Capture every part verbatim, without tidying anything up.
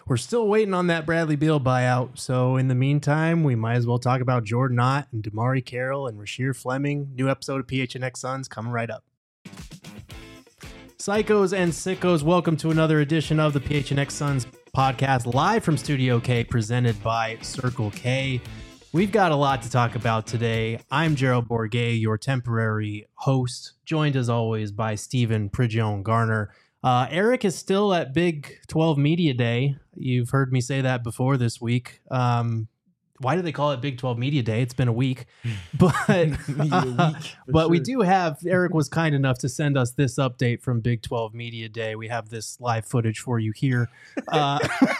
we're still waiting on that Bradley Beal buyout. So in the meantime, we might as well talk about Jordan Ott and Damari Carroll and Rasheer Fleming. New episode of P H N X Suns coming right up. Psychos and sickos, welcome to another edition of the P H N X Suns podcast, live from Studio K, presented by Circle K. We've got a lot to talk about today. I'm Gerald Bourguet, your temporary host, joined as always by Stephen Prigione Garner. Uh, Eric is still at Big twelve Media Day. You've heard me say that before this week. Um, why do they call it Big twelve Media Day? It's been a week. But, uh, week but sure. We do have, Eric was kind enough to send us this update from Big twelve Media Day. We have this live footage for you here. Uh,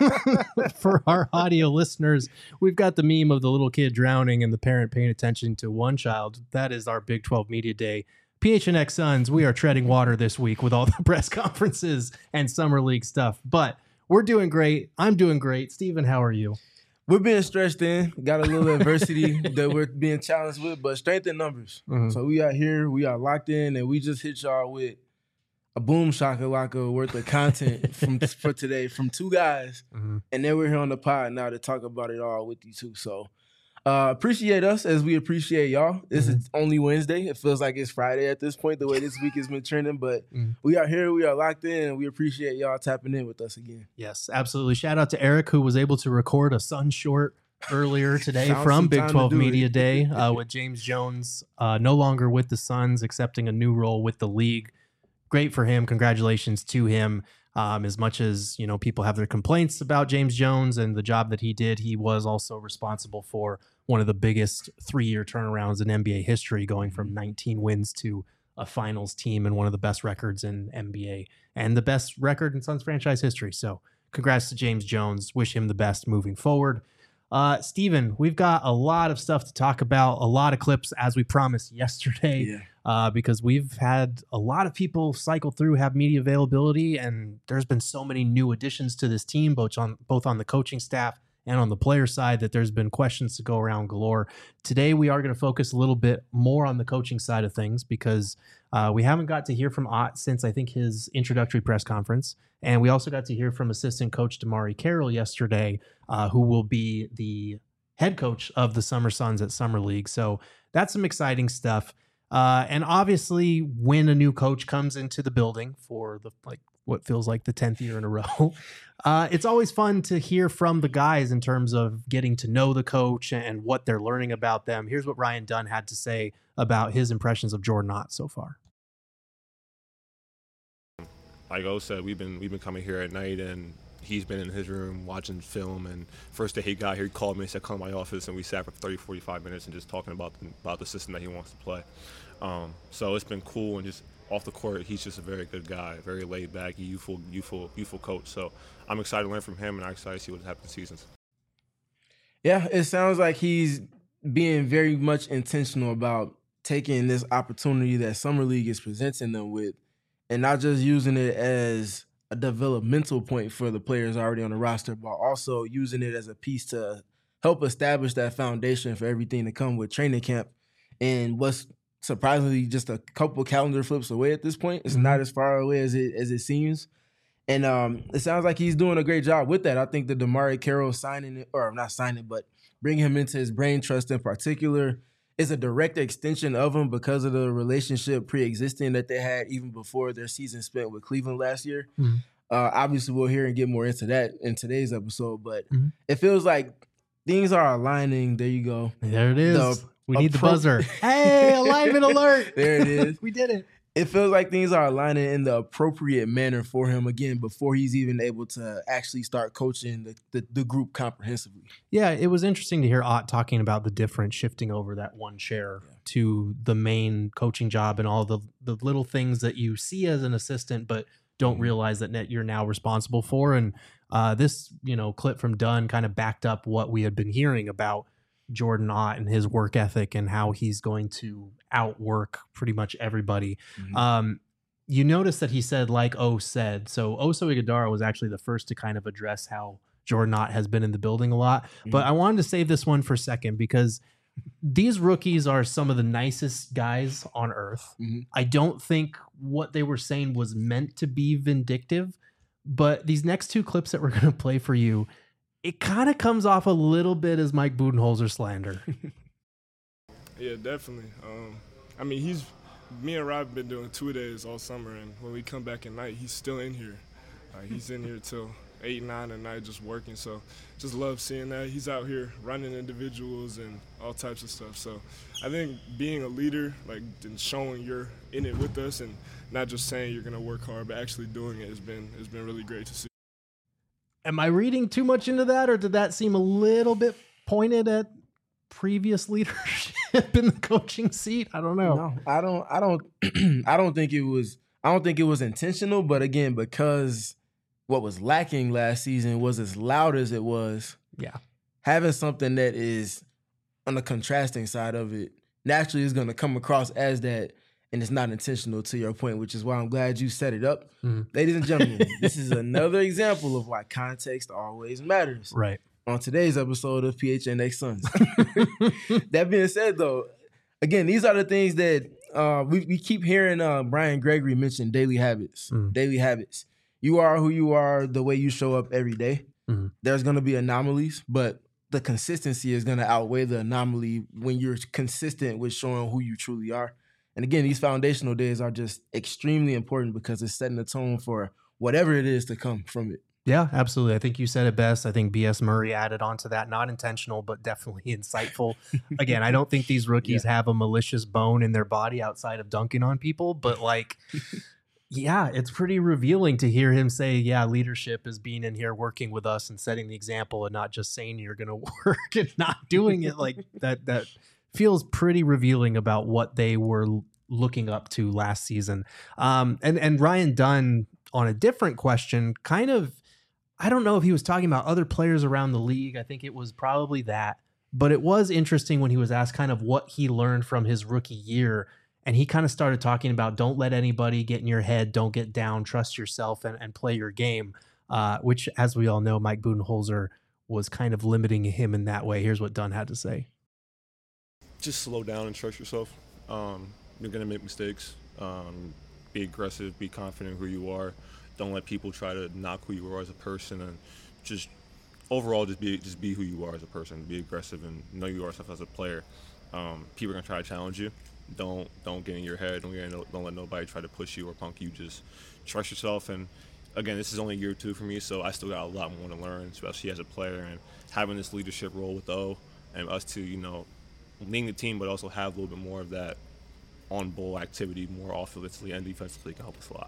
for our audio listeners, we've got the meme of the little kid drowning and the parent paying attention to one child. That is our Big twelve Media Day. P H N X Suns, we are treading water this week with all the press conferences and summer league stuff. But we're doing great. I'm doing great. Steven, how are you? We're being stretched in. Got a little adversity that we're being challenged with, but strength in numbers. Mm-hmm. So we are here. We are locked in, and we just hit y'all with a boom shakalaka worth of content from for today from two guys. Mm-hmm. And then we're here on the pod now to talk about it all with you too. So uh, appreciate us as we appreciate y'all. This mm-hmm. is only Wednesday. It feels like it's Friday at this point, the way this week has been trending. But mm-hmm. we are here. We are locked in, and we appreciate y'all tapping in with us again. Yes, absolutely. Shout out to Eric, who was able to record a Sun short earlier today from Big twelve Media it. Day uh, with James Jones, uh, no longer with the Suns, accepting a new role with the league. Great for him. Congratulations to him. Um, as much as, you know, people have their complaints about James Jones and the job that he did, he was also responsible for one of the biggest three-year turnarounds in N B A history, going from nineteen wins to a finals team and one of the best records in N B A and the best record in Suns franchise history. So congrats to James Jones. Wish him the best moving forward. Uh, Steven, we've got a lot of stuff to talk about, a lot of clips, as we promised yesterday, yeah. uh, because we've had a lot of people cycle through, have media availability, and there's been so many new additions to this team, both on, both on the coaching staff and on the player side, that there's been questions to go around galore. Today, we are going to focus a little bit more on the coaching side of things because uh, we haven't got to hear from Ott since I think his introductory press conference. And we also got to hear from assistant coach Damari Carroll yesterday, uh, who will be the head coach of the Summer Suns at Summer League. So that's some exciting stuff. Uh, and obviously, when a new coach comes into the building for the like what feels like the tenth year in a row, uh, it's always fun to hear from the guys in terms of getting to know the coach and what they're learning about them. Here's what Ryan Dunn had to say about his impressions of Jordan Ott so far. Like O said, we've been we've been coming here at night, and he's been in his room watching film. And first day he got here, he called me and said, "Come to my office," and we sat for thirty, forty-five minutes and just talking about the, about the system that he wants to play. Um, so it's been cool, and just off the court, he's just a very good guy, very laid back, youthful, youthful, youthful coach. So I'm excited to learn from him, and I'm excited to see what happens in seasons. Yeah, it sounds like he's being very much intentional about taking this opportunity that Summer League is presenting them with, and not just using it as a developmental point for the players already on the roster, but also using it as a piece to help establish that foundation for everything to come with training camp. And what's surprisingly just a couple calendar flips away at this point. It's mm-hmm. not as far away as it as it seems. And um, it sounds like he's doing a great job with that. I think the Damari Carroll signing it, or not signing, but bringing him into his brain trust in particular is a direct extension of him because of the relationship pre-existing that they had even before their season spent with Cleveland last year. Mm-hmm. Uh, obviously, we'll hear and get more into that in today's episode, but mm-hmm. it feels like things are aligning. There you go. There it is. The, we need appro- the buzzer. Hey, alignment alert. There it is. We did it. It feels like things are aligning in the appropriate manner for him, again, before he's even able to actually start coaching the, the, the group comprehensively. Yeah, it was interesting to hear Ott talking about the difference shifting over that one chair yeah. to the main coaching job and all the, the little things that you see as an assistant but don't mm-hmm. realize that you're now responsible for. And uh, this, you know, clip from Dunn kind of backed up what we had been hearing about Jordan Ott and his work ethic and how he's going to outwork pretty much everybody. Mm-hmm. Um, you notice that he said, like O said. So Oso Ighodaro was actually the first to kind of address how Jordan Ott has been in the building a lot. Mm-hmm. But I wanted to save this one for a second because these rookies are some of the nicest guys on earth. Mm-hmm. I don't think what they were saying was meant to be vindictive, But these next two clips that we're going to play for you, it kind of comes off a little bit as Mike Budenholzer slander. Yeah, definitely. Um, I mean, he's me and Rob been doing two days all summer, and when we come back at night, he's still in here. Uh, he's in here till eight, nine at night just working. So just love seeing that. He's out here running individuals and all types of stuff. So I think being a leader, like, and showing you're in it with us and not just saying you're going to work hard, but actually doing it has been has been really great to see. Am I reading too much into that, or did that seem a little bit pointed at previous leadership in the coaching seat? I don't know. No, I don't. I don't. I don't think it was. I don't think it was intentional. But again, because what was lacking last season was as loud as it was. Yeah, having something that is on the contrasting side of it naturally is going to come across as that, and it's not intentional. To your point, which is why I'm glad you set it up, mm. ladies and gentlemen. This is another example of why context always matters. Right. On today's episode of P H N X Suns. That being said, though, again, these are the things that uh, we, we keep hearing uh, Brian Gregory mention daily habits. Mm. Daily habits. You are who you are the way you show up every day. Mm. There's going to be anomalies, but the consistency is going to outweigh the anomaly when you're consistent with showing who you truly are. And again, these foundational days are just extremely important because it's setting the tone for whatever it is to come from it. Yeah, absolutely. I think you said it best. I think B S Murray added on to that. Not intentional, but definitely insightful. Again, I don't think these rookies yeah. have a malicious bone in their body outside of dunking on people, but like, yeah, it's pretty revealing to hear him say, yeah, leadership is being in here working with us and setting the example and not just saying you're going to work and not doing it. Like that, that feels pretty revealing about what they were looking up to last season. Um, and, and Ryan Dunn, on a different question, kind of, I don't know if he was talking about other players around the league. I think it was probably that. But it was interesting when he was asked kind of what he learned from his rookie year. And he kind of started talking about don't let anybody get in your head. Don't get down. Trust yourself and, and play your game, uh, which, as we all know, Mike Budenholzer was kind of limiting him in that way. Here's what Dunn had to say. Just slow down and trust yourself. Um, you're going to make mistakes. Um, be aggressive. Be confident in who you are. Don't let people try to knock who you are as a person, and just overall just be just be who you are as a person. Be aggressive and know you are yourself as a player. Um, people are gonna try to challenge you. Don't don't get in your head. Don't get in, don't let nobody try to push you or punk you. Just trust yourself. And again, this is only year two for me, so I still got a lot more to learn, especially as a player and having this leadership role with O and us to you know leading the team, but also have a little bit more of that on-ball activity, more offensively and defensively can help us a lot.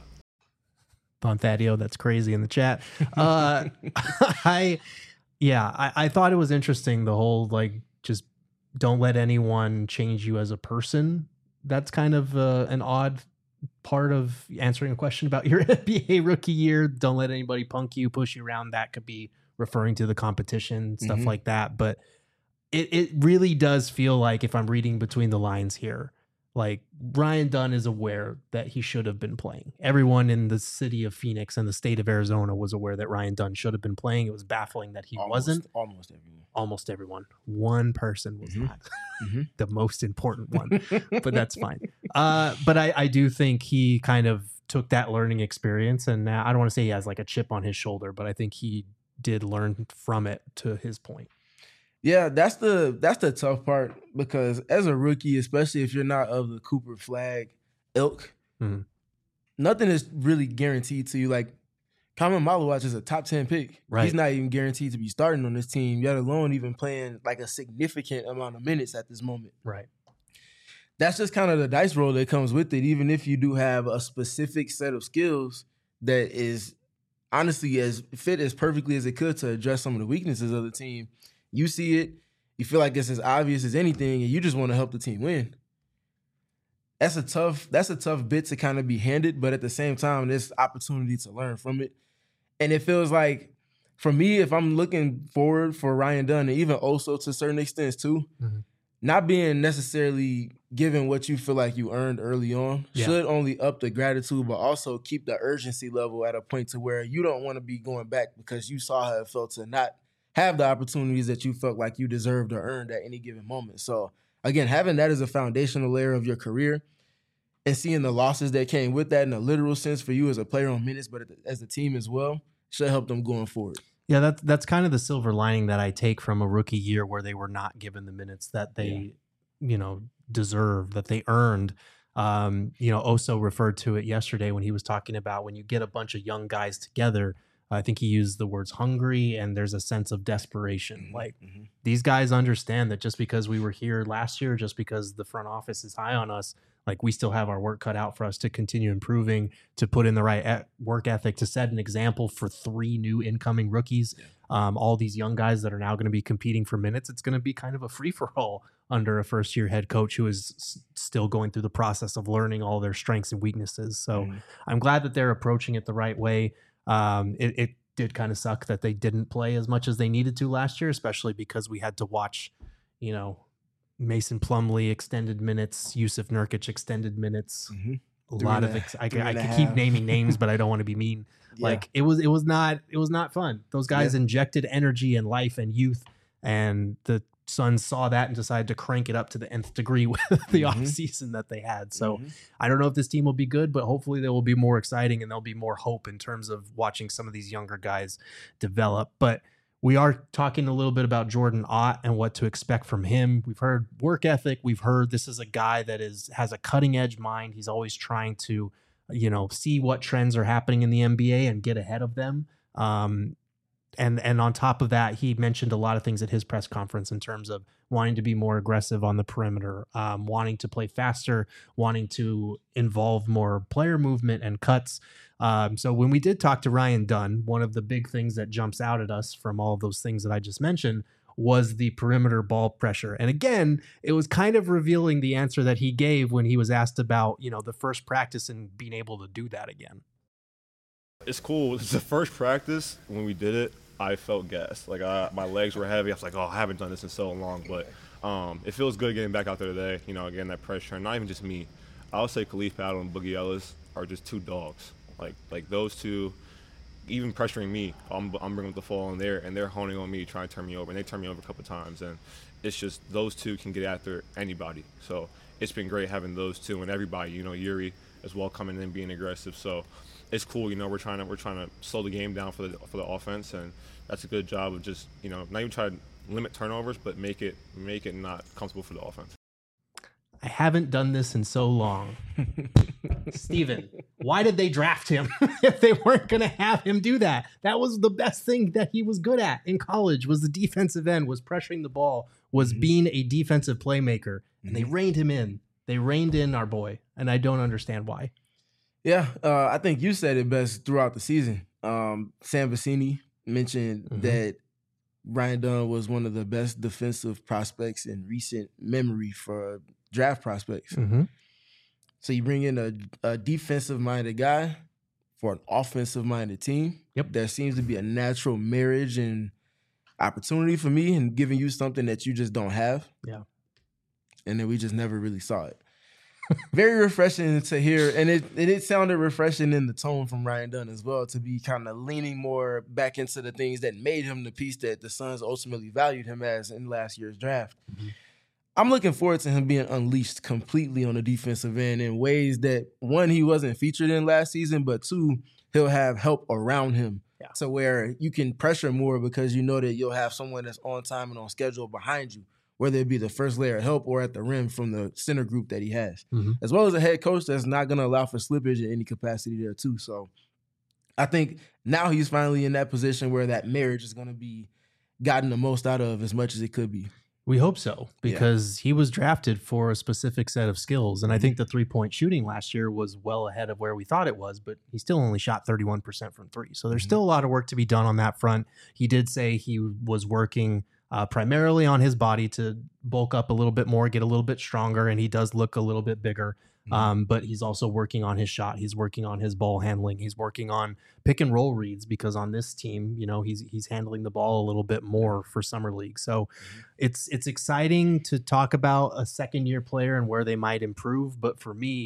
On Thadio, that's crazy in the chat. Uh, I, yeah, I, I thought it was interesting. The whole like, just don't let anyone change you as a person. That's kind of uh, an odd part of answering a question about your N B A rookie year. Don't let anybody punk you, push you around. That could be referring to the competition, stuff mm-hmm. like that. But it, it really does feel like, if I'm reading between the lines here, like Ryan Dunn is aware that he should have been playing. Everyone in the city of Phoenix and the state of Arizona was aware that Ryan Dunn should have been playing. It was baffling that he almost, wasn't. Almost everyone. Almost everyone. One person was mm-hmm. not. Mm-hmm. The most important one, but that's fine. Uh, but I, I do think he kind of took that learning experience, and now I don't want to say he has like a chip on his shoulder, but I think he did learn from it, to his point. Yeah, that's the that's the tough part, because as a rookie, especially if you're not of the Cooper Flag ilk, mm-hmm. nothing is really guaranteed to you. Like, Kamen Malawach is a top ten pick. Right. He's not even guaranteed to be starting on this team, yet alone even playing like a significant amount of minutes at this moment. Right. That's just kind of the dice roll that comes with it, even if you do have a specific set of skills that is honestly as fit as perfectly as it could to address some of the weaknesses of the team. You see it, you feel like it's as obvious as anything, and you just want to help the team win. That's a tough, that's a tough bit to kind of be handed, but at the same time, there's opportunity to learn from it. And it feels like, for me, if I'm looking forward for Ryan Dunn, and even also to certain extents too, mm-hmm. not being necessarily given what you feel like you earned early on yeah. should only up the gratitude, but also keep the urgency level at a point to where you don't want to be going back because you saw how it felt to not have the opportunities that you felt like you deserved or earned at any given moment. So again, having that as a foundational layer of your career and seeing the losses that came with that in a literal sense for you as a player on minutes, but as a team as well, should help them going forward. Yeah, that's that's kind of the silver lining that I take from a rookie year where they were not given the minutes that they, yeah. you know, deserve, that they earned. Um, you know, Oso referred to it yesterday when he was talking about when you get a bunch of young guys together. I think he used the words hungry, and there's a sense of desperation. Like mm-hmm. these guys understand that just because we were here last year, just because the front office is high on us, like we still have our work cut out for us to continue improving, to put in the right e- work ethic, to set an example for three new incoming rookies. Yeah. Um, all these young guys that are now going to be competing for minutes. It's going to be kind of a free for all under a first year head coach who is s- still going through the process of learning all their strengths and weaknesses. So mm-hmm. I'm glad that they're approaching it the right way. Um, it, it did kind of suck that they didn't play as much as they needed to last year, especially because we had to watch, you know, Mason Plumlee extended minutes, Yusuf Nurkic extended minutes. Mm-hmm. A three lot of ex- I, I could half. keep naming names, but I don't want to be mean. Yeah. Like it was, it was not, it was not fun. Those guys yeah. injected energy and life and youth, and the Suns saw that and decided to crank it up to the nth degree with the mm-hmm. off season that they had. So mm-hmm. I don't know if this team will be good, but hopefully they will be more exciting and there'll be more hope in terms of watching some of these younger guys develop. But we are talking a little bit about Jordan Ott and what to expect from him. We've heard work ethic. We've heard this is a guy that is has a cutting edge mind. He's always trying to, you know, see what trends are happening in the N B A and get ahead of them. Um, And and on top of that, he mentioned a lot of things at his press conference in terms of wanting to be more aggressive on the perimeter, um, wanting to play faster, wanting to involve more player movement and cuts. Um, so when we did talk to Ryan Dunn, one of the big things that jumps out at us from all of those things that I just mentioned was the perimeter ball pressure. And again, it was kind of revealing the answer that he gave when he was asked about, you know, the first practice and being able to do that again. It's cool. It's the first practice when we did it. I felt gassed. Like I, my legs were heavy. I was like, oh, I haven't done this in so long. But um, it feels good getting back out there today. You know, again, that pressure. And not even just me. I would say Khalif Battle and Boogie Ellis are just two dogs. Like like those two, even pressuring me, I'm, I'm bringing up the fall in there, and they're honing on me, trying to turn me over. And they turned me over a couple of times. And it's just those two can get after anybody. So it's been great having those two and everybody. You know, Yuri as well coming in, being aggressive. So it's cool, you know. We're trying to we're trying to slow the game down for the for the offense, and that's a good job of just, you know, not even try to limit turnovers, but make it make it not comfortable for the offense. I haven't done this in so long. Steven, why did they draft him if they weren't going to have him do that? That was the best thing that he was good at in college, was the defensive end, was pressuring the ball, was mm-hmm. being a defensive playmaker, and mm-hmm. they reined him in. They reined in our boy, and I don't understand why. Yeah, uh, I think you said it best throughout the season. Um, Sam Vecini mentioned mm-hmm. that Ryan Dunn was one of the best defensive prospects in recent memory for draft prospects. Mm-hmm. So you bring in a, a defensive-minded guy for an offensive-minded team. Yep. There seems to be a natural marriage and opportunity for me in giving you something that you just don't have. Yeah. And then we just never really saw it. Very refreshing to hear, and it and it sounded refreshing in the tone from Ryan Dunn as well, to be kind of leaning more back into the things that made him the piece that the Suns ultimately valued him as in last year's draft. Mm-hmm. I'm looking forward to him being unleashed completely on the defensive end in ways that, one, he wasn't featured in last season, but two, he'll have help around him yeah. to where you can pressure more because you know that you'll have someone that's on time and on schedule behind you, whether it be the first layer of help or at the rim from the center group that he has, mm-hmm. as well as a head coach that's not going to allow for slippage in any capacity there too. So I think now he's finally in that position where that marriage is going to be gotten the most out of as much as it could be. We hope so, because yeah. he was drafted for a specific set of skills. And I think the three-point shooting last year was well ahead of where we thought it was, but he still only shot thirty-one percent from three. So there's mm-hmm. still a lot of work to be done on that front. He did say he was working Uh, primarily on his body to bulk up a little bit more, get a little bit stronger, and he does look a little bit bigger. Mm-hmm. Um, but he's also working on his shot. He's working on his ball handling. He's working on pick and roll reads, because on this team, you know, he's he's handling the ball a little bit more for summer league. So mm-hmm. it's it's exciting to talk about a second year player and where they might improve. But for me,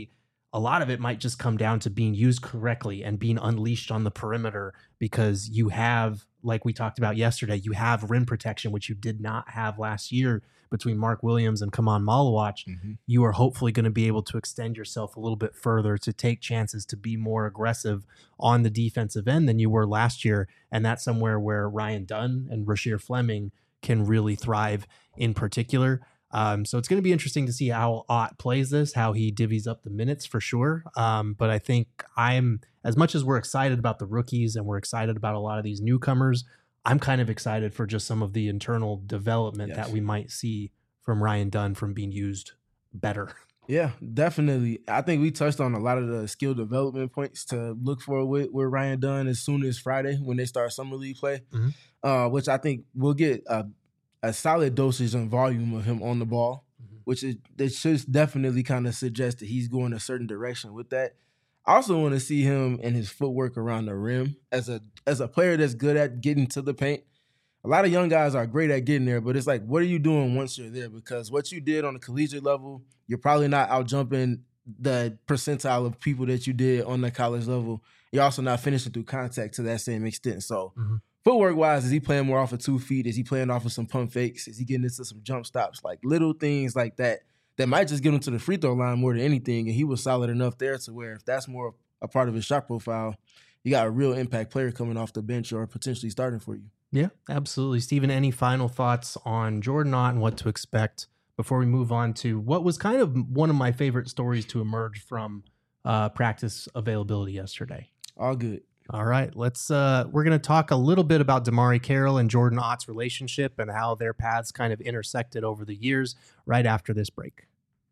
a lot of it might just come down to being used correctly and being unleashed on the perimeter, because you have, like we talked about yesterday, you have rim protection, which you did not have last year between Mark Williams and Kaman Malawach. Mm-hmm. You are hopefully going to be able to extend yourself a little bit further, to take chances, to be more aggressive on the defensive end than you were last year. And that's somewhere where Ryan Dunn and Rasheer Fleming can really thrive in particular. Um, so it's going to be interesting to see how Ott plays this, how he divvies up the minutes for sure. Um, but I think I'm, as much as we're excited about the rookies and we're excited about a lot of these newcomers, I'm kind of excited for just some of the internal development yes. that we might see from Ryan Dunn from being used better. Yeah, definitely. I think we touched on a lot of the skill development points to look for with, with Ryan Dunn as soon as Friday when they start Summer League play, mm-hmm. uh, which I think we'll get a, a solid dosage and volume of him on the ball, mm-hmm. which is, it should definitely kind of suggest that he's going a certain direction with that. I also want to see him and his footwork around the rim as a as a player that's good at getting to the paint. A lot of young guys are great at getting there, but it's like, what are you doing once you're there? Because what you did on the collegiate level, you're probably not out jumping the percentile of people that you did on the college level. You're also not finishing through contact to that same extent. So mm-hmm. footwork-wise, is he playing more off of two feet? Is he playing off of some pump fakes? Is he getting into some jump stops? Like little things like that that might just get him to the free throw line more than anything. And he was solid enough there to where if that's more a part of his shot profile, you got a real impact player coming off the bench or potentially starting for you. Yeah, absolutely. Steven, any final thoughts on Jordan Ott and what to expect before we move on to what was kind of one of my favorite stories to emerge from uh, practice availability yesterday? All good. All right, let's. Uh, we're going to talk a little bit about DeMarre Carroll and Jordan Ott's relationship and how their paths kind of intersected over the years right after this break.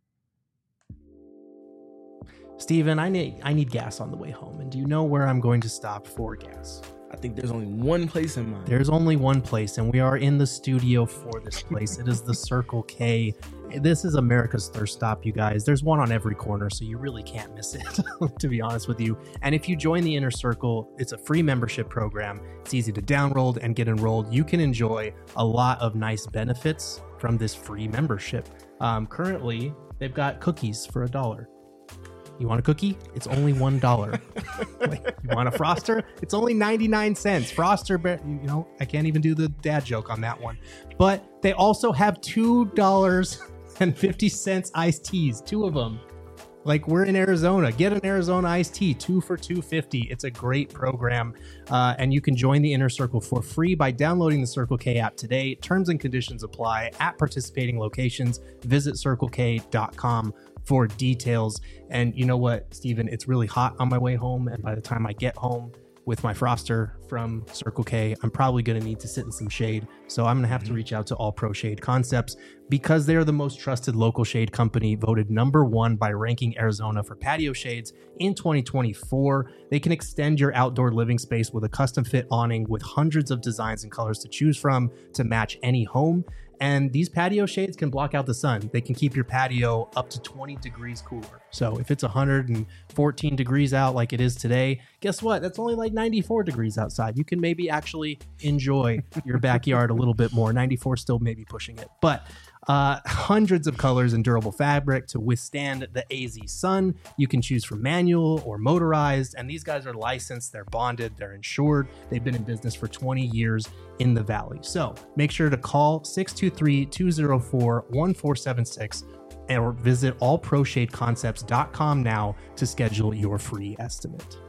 Steven, I need I need gas on the way home, and do you know where I'm going to stop for gas? I think there's only one place in mind. There's only one place, and we are in the studio for this place. It is the Circle K. This is America's thirst stop, you guys. There's one on every corner, so you really can't miss it, to be honest with you. And if you join the Inner Circle, it's a free membership program. It's easy to download and get enrolled. You can enjoy a lot of nice benefits from this free membership. Um, currently, they've got cookies for a dollar. You want a cookie? It's only one dollar. Wait, you want a Froster? It's only ninety-nine cents. Froster, you know, I can't even do the dad joke on that one. But they also have two dollars and fifty cents iced teas, two of them. Like, we're in Arizona. Get an Arizona iced tea, two for two fifty. It's a great program, uh, and you can join the Inner Circle for free by downloading the Circle K app today. Terms and conditions apply at participating locations. Visit circle k dot com for details. And you know what, Steven? It's really hot on my way home, and by the time I get home with my Froster from Circle K, I'm probably going to need to sit in some shade. So I'm going to have to reach out to All Pro Shade Concepts because they are the most trusted local shade company, voted number one by Ranking Arizona for patio shades in twenty twenty-four. They can extend your outdoor living space with a custom fit awning with hundreds of designs and colors to choose from to match any home. And these patio shades can block out the sun. They can keep your patio up to twenty degrees cooler. So if it's one hundred fourteen degrees out like it is today, guess what? That's only like ninety-four degrees outside. You can maybe actually enjoy your backyard a little bit more. ninety-four still maybe pushing it. But uh, hundreds of colors and durable fabric to withstand the A Z sun. You can choose from manual or motorized. And these guys are licensed. They're bonded. They're insured. They've been in business for twenty years in the Valley. So make sure to call six two three, two oh four, one four seven six or visit all pro shade concepts dot com now to schedule your free estimate.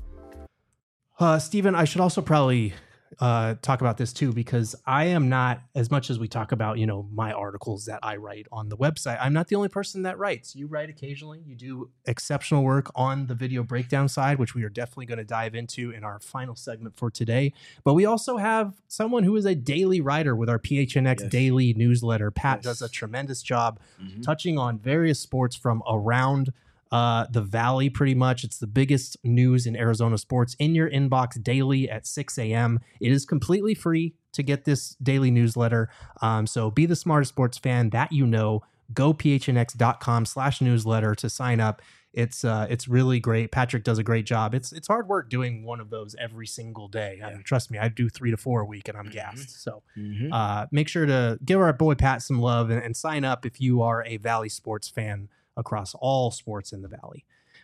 Uh, Steven, I should also probably uh, talk about this too, because I am not, as much as we talk about, you know, my articles that I write on the website, I'm not the only person that writes. You write occasionally. You do exceptional work on the video breakdown side, which we are definitely going to dive into in our final segment for today. But we also have someone who is a daily writer with our P H N X yes. daily newsletter. Pat yes. does a tremendous job mm-hmm. touching on various sports from around Uh, the Valley, pretty much. It's the biggest news in Arizona sports in your inbox daily at six a.m. It is completely free to get this daily newsletter. Um, so be the smartest sports fan that you know. Go phnx.com slash newsletter to sign up. It's uh, it's really great. Patrick does a great job. It's it's hard work doing one of those every single day. I mean, trust me, I do three to four a week and I'm mm-hmm. gassed. So mm-hmm. uh, make sure to give our boy Pat some love and, and sign up if you are a Valley sports fan across all sports in the Valley.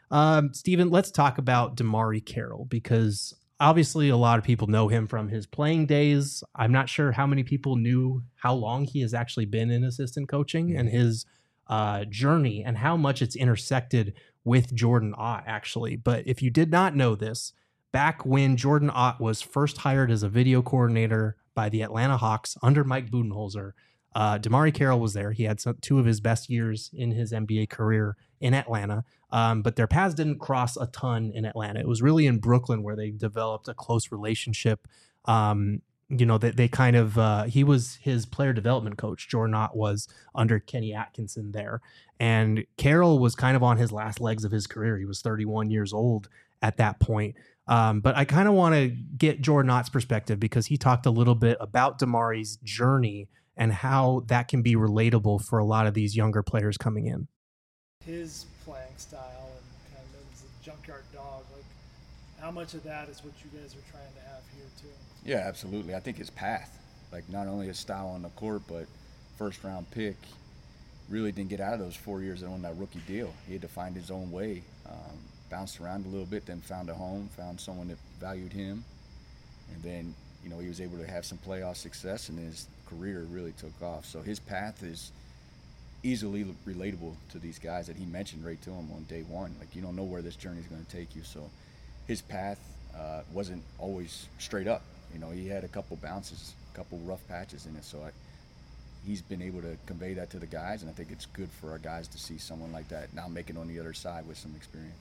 Um, Steven, let's talk about DeMarre Carroll, because obviously a lot of people know him from his playing days. I'm not sure how many people knew how long he has actually been in assistant coaching and his uh, journey and how much it's intersected with Jordan Ott, actually. But if you did not know this, back when Jordan Ott was first hired as a video coordinator by the Atlanta Hawks under Mike Budenholzer, uh, DeMarre Carroll was there. He had some, two of his best years in his N B A career in Atlanta, um, but their paths didn't cross a ton in Atlanta. It was really in Brooklyn where they developed a close relationship. Um, you know, they, they kind of, uh, he was his player development coach. Jordan Ott was under Kenny Atkinson there. And Carroll was kind of on his last legs of his career. He was thirty-one years old at that point. Um, but I kind of want to get Jordan Ott's perspective, because he talked a little bit about DeMarre's journey and how that can be relatable for a lot of these younger players coming in. His playing style and kind of as a junkyard dog, like how much of that is what you guys are trying to have here too? Yeah, absolutely. I think his path, like not only his style on the court, but first round pick, really didn't get out of those four years on that rookie deal. He had to find his own way, um, bounced around a little bit, then found a home, found someone that valued him. And then, you know, he was able to have some playoff success, and his career really took off. So his path is easily relatable to these guys that he mentioned right to him on day one. Like, you don't know where this journey is going to take you. So his path uh, wasn't always straight up. You know, he had a couple bounces, a couple rough patches in it. So I, he's been able to convey that to the guys, and I think it's good for our guys to see someone like that now make it on the other side with some experience.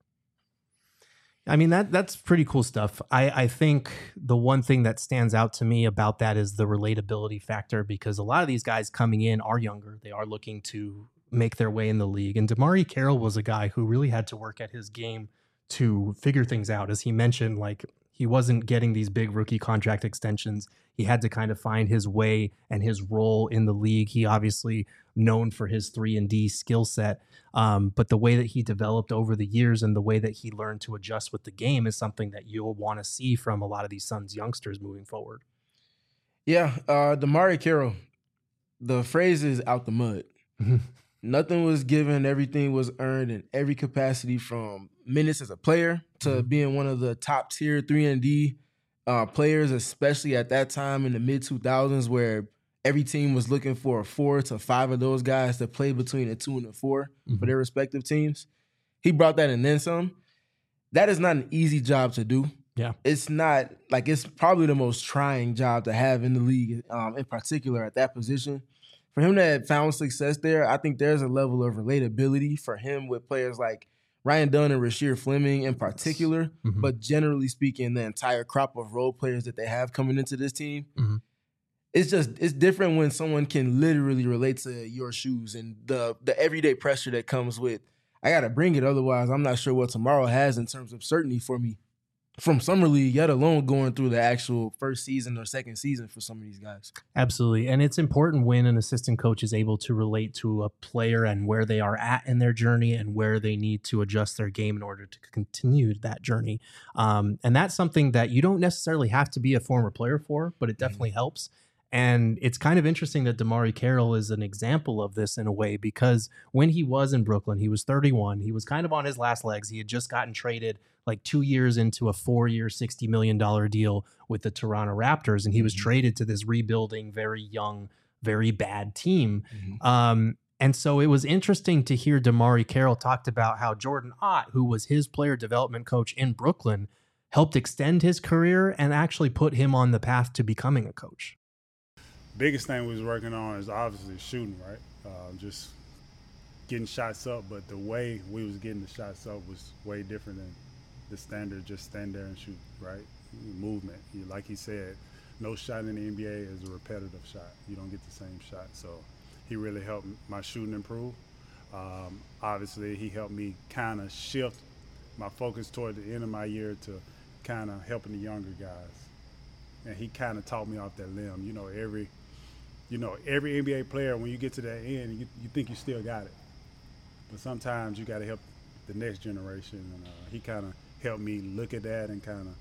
I mean, that that's pretty cool stuff. I, I think the one thing that stands out to me about that is the relatability factor, because a lot of these guys coming in are younger. They are looking to make their way in the league. And DeMarre Carroll was a guy who really had to work at his game to figure things out. As he mentioned, like, he wasn't getting these big rookie contract extensions. He had to kind of find his way and his role in the league. He obviously known for his three and D skill set. Um, but the way that he developed over the years and the way that he learned to adjust with the game is something that you'll want to see from a lot of these Suns youngsters moving forward. Yeah, uh, DeMarre Carroll, the phrase is out the mud. Nothing was given, everything was earned in every capacity, from minutes as a player to mm-hmm. being one of the top tier three and D uh, players, especially at that time in the mid two thousands, where every team was looking for four to five of those guys to play between a two and a four mm-hmm. for their respective teams. He brought that and then some. That is not an easy job to do. Yeah, it's not, like, it's probably the most trying job to have in the league, um, in particular at that position. For him to have found success there, I think there's a level of relatability for him with players like Ryan Dunn and Rasheer Fleming in particular, mm-hmm. but generally speaking, the entire crop of role players that they have coming into this team. Mm-hmm. It's just, it's different when someone can literally relate to your shoes and the the everyday pressure that comes with, I got to bring it, otherwise I'm not sure what tomorrow has in terms of certainty for me from Summer League, yet alone going through the actual first season or second season for some of these guys. Absolutely. And it's important when an assistant coach is able to relate to a player and where they are at in their journey and where they need to adjust their game in order to continue that journey. Um, and that's something that you don't necessarily have to be a former player for, but it definitely mm-hmm. helps. And it's kind of interesting that DeMarre Carroll is an example of this in a way, because when he was in Brooklyn, he was thirty-one. He was kind of on his last legs. He had just gotten traded like two years into a four-year, sixty million dollars deal with the Toronto Raptors, and he was mm-hmm. traded to this rebuilding, very young, very bad team. Mm-hmm. Um, and so it was interesting to hear DeMarre Carroll talked about how Jordan Ott, who was his player development coach in Brooklyn, helped extend his career and actually put him on the path to becoming a coach. Biggest thing we was working on is obviously shooting, right? Uh, just getting shots up, but the way we was getting the shots up was way different than the standard, just stand there and shoot, right? Movement. Like he said, no shot in the N B A is a repetitive shot. You don't get the same shot. So he really helped my shooting improve. Um, obviously, he helped me kind of shift my focus toward the end of my year to kind of helping the younger guys. And he kind of taught me off that limb. You know, every You know, every N B A player, when you get to that end, you, you think you still got it. But sometimes you got to help the next generation. And uh, he kind of helped me look at that and kind of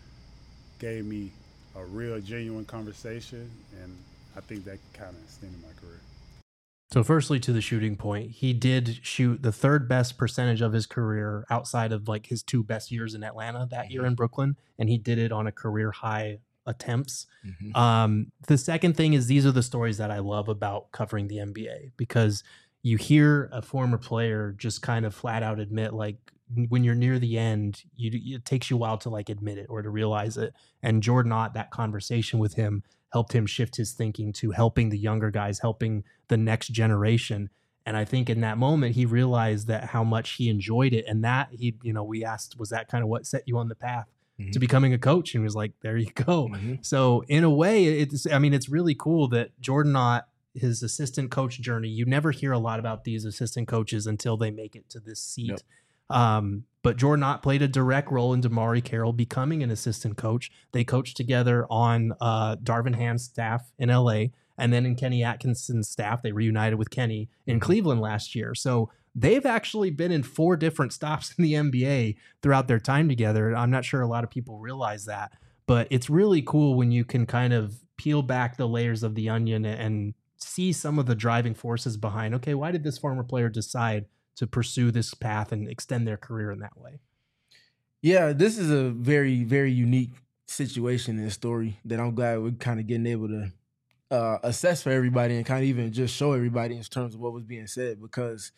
gave me a real, genuine conversation. And I think that kind of extended my career. So firstly, to the shooting point, he did shoot the third best percentage of his career outside of like his two best years in Atlanta that year in Brooklyn. And he did it on a career high attempts. Mm-hmm. Um, the second thing is these are the stories that I love about covering the N B A, because you hear a former player just kind of flat out admit, like, when you're near the end, you, it takes you a while to like admit it or to realize it. And Jordan Ott, that conversation with him helped him shift his thinking to helping the younger guys, helping the next generation. And I think in that moment, he realized that how much he enjoyed it. And that he, you know, we asked, was that kind of what set you on the path mm-hmm. to becoming a coach? And he was like, there you go. Mm-hmm. So in a way, it's, I mean, it's really cool that Jordan Ott, his assistant coach journey, you never hear a lot about these assistant coaches until they make it to this seat. Yep. Um, but Jordan Ott played a direct role in DeMarre Carroll becoming an assistant coach. They coached together on uh, Darvin Ham's staff in L A, and then in Kenny Atkinson's staff. They reunited with Kenny in Cleveland last year. So they've actually been in four different stops in the N B A throughout their time together. I'm not sure a lot of people realize that, but it's really cool when you can kind of peel back the layers of the onion and see some of the driving forces behind, okay, why did this former player decide to pursue this path and extend their career in that way? Yeah, this is a very, very unique situation and story that I'm glad we're kind of getting able to uh, assess for everybody and kind of even just show everybody in terms of what was being said, because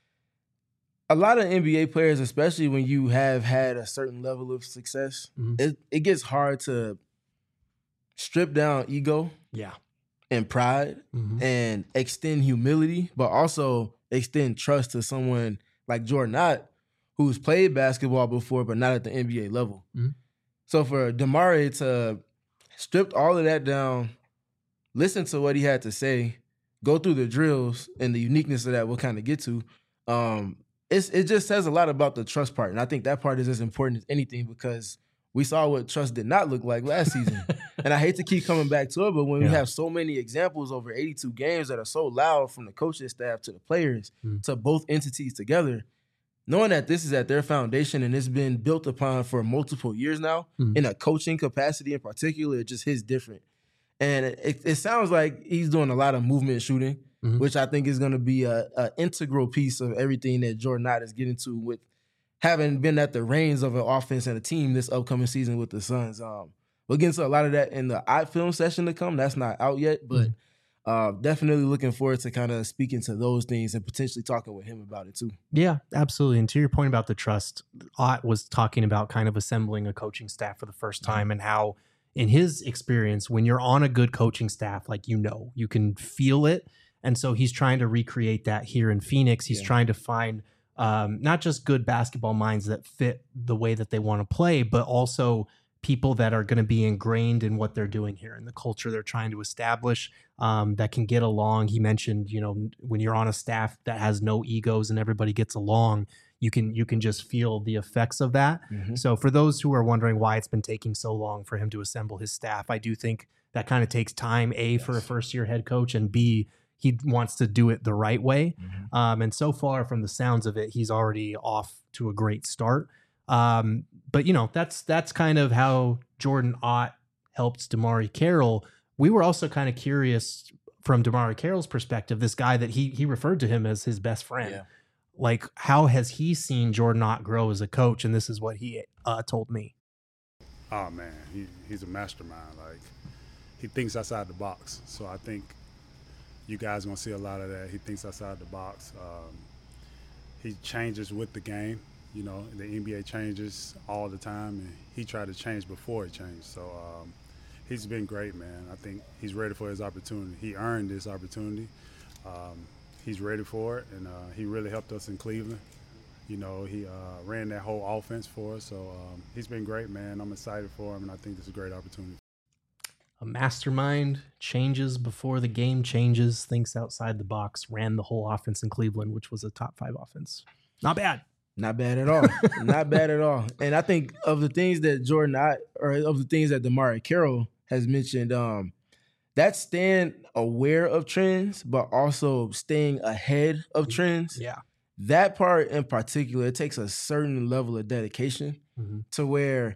a lot of N B A players, especially when you have had a certain level of success, mm-hmm. it, it gets hard to strip down ego yeah, and pride mm-hmm. and extend humility, but also extend trust to someone like Jordan Ott, who's played basketball before, but not at the N B A level. Mm-hmm. So for DeMarre to strip all of that down, listen to what he had to say, go through the drills and the uniqueness of that we'll kind of get to, um, it's, it just says a lot about the trust part. And I think that part is as important as anything, because we saw what trust did not look like last season. And I hate to keep coming back to it, but when yeah. we have so many examples over eighty-two games that are so loud, from the coaching staff to the players mm. to both entities together, knowing that this is at their foundation and it's been built upon for multiple years now, mm. in a coaching capacity in particular, it just hits different. And it, it sounds like he's doing a lot of movement shooting, mm-hmm. which I think is going to be a, a integral piece of everything that Jordan Ott is getting to with having been at the reins of an offense and a team this upcoming season with the Suns. Um, we'll get into a lot of that in the Ott film session to come. That's not out yet, but uh, definitely looking forward to kind of speaking to those things and potentially talking with him about it too. Yeah, absolutely. And to your point about the trust, Ott was talking about kind of assembling a coaching staff for the first time, and how in his experience, when you're on a good coaching staff, like, you know, you can feel it. And so he's trying to recreate that here in Phoenix. He's yeah. trying to find Um, not just good basketball minds that fit the way that they want to play, but also people that are going to be ingrained in what they're doing here and the culture they're trying to establish, um, that can get along. He mentioned, you know, when you're on a staff that has no egos and everybody gets along, you can you can just feel the effects of that. Mm-hmm. So for those who are wondering why it's been taking so long for him to assemble his staff, I do think that kind of takes time, A, yes. for a first-year head coach, and B, he wants to do it the right way. Mm-hmm. Um, and so far, from the sounds of it, he's already off to a great start. Um, but, you know, that's that's kind of how Jordan Ott helped DeMarre Carroll. We were also kind of curious from DeMarre Carroll's perspective, this guy that he he referred to him as his best friend. Yeah. Like, how has he seen Jordan Ott grow as a coach? And this is what he uh, told me. Oh, man, he, he's a mastermind. Like, he thinks outside the box. So I think you guys are going to see a lot of that. He thinks outside the box. Um, he changes with the game. You know, the N B A changes all the time, and he tried to change before it changed. So um, he's been great, man. I think he's ready for his opportunity. He earned this opportunity. Um, he's ready for it, and uh, he really helped us in Cleveland. You know, he uh, ran that whole offense for us. So um, he's been great, man. I'm excited for him, and I think this is a great opportunity. A mastermind, changes before the game changes, thinks outside the box, ran the whole offense in Cleveland, which was a top five offense. Not bad. Not bad at all. Not bad at all. And I think of the things that Jordan Ott, or of the things that DeMarre Carroll has mentioned, um, that's staying aware of trends, but also staying ahead of trends. Yeah. That part in particular, it takes a certain level of dedication mm-hmm. to where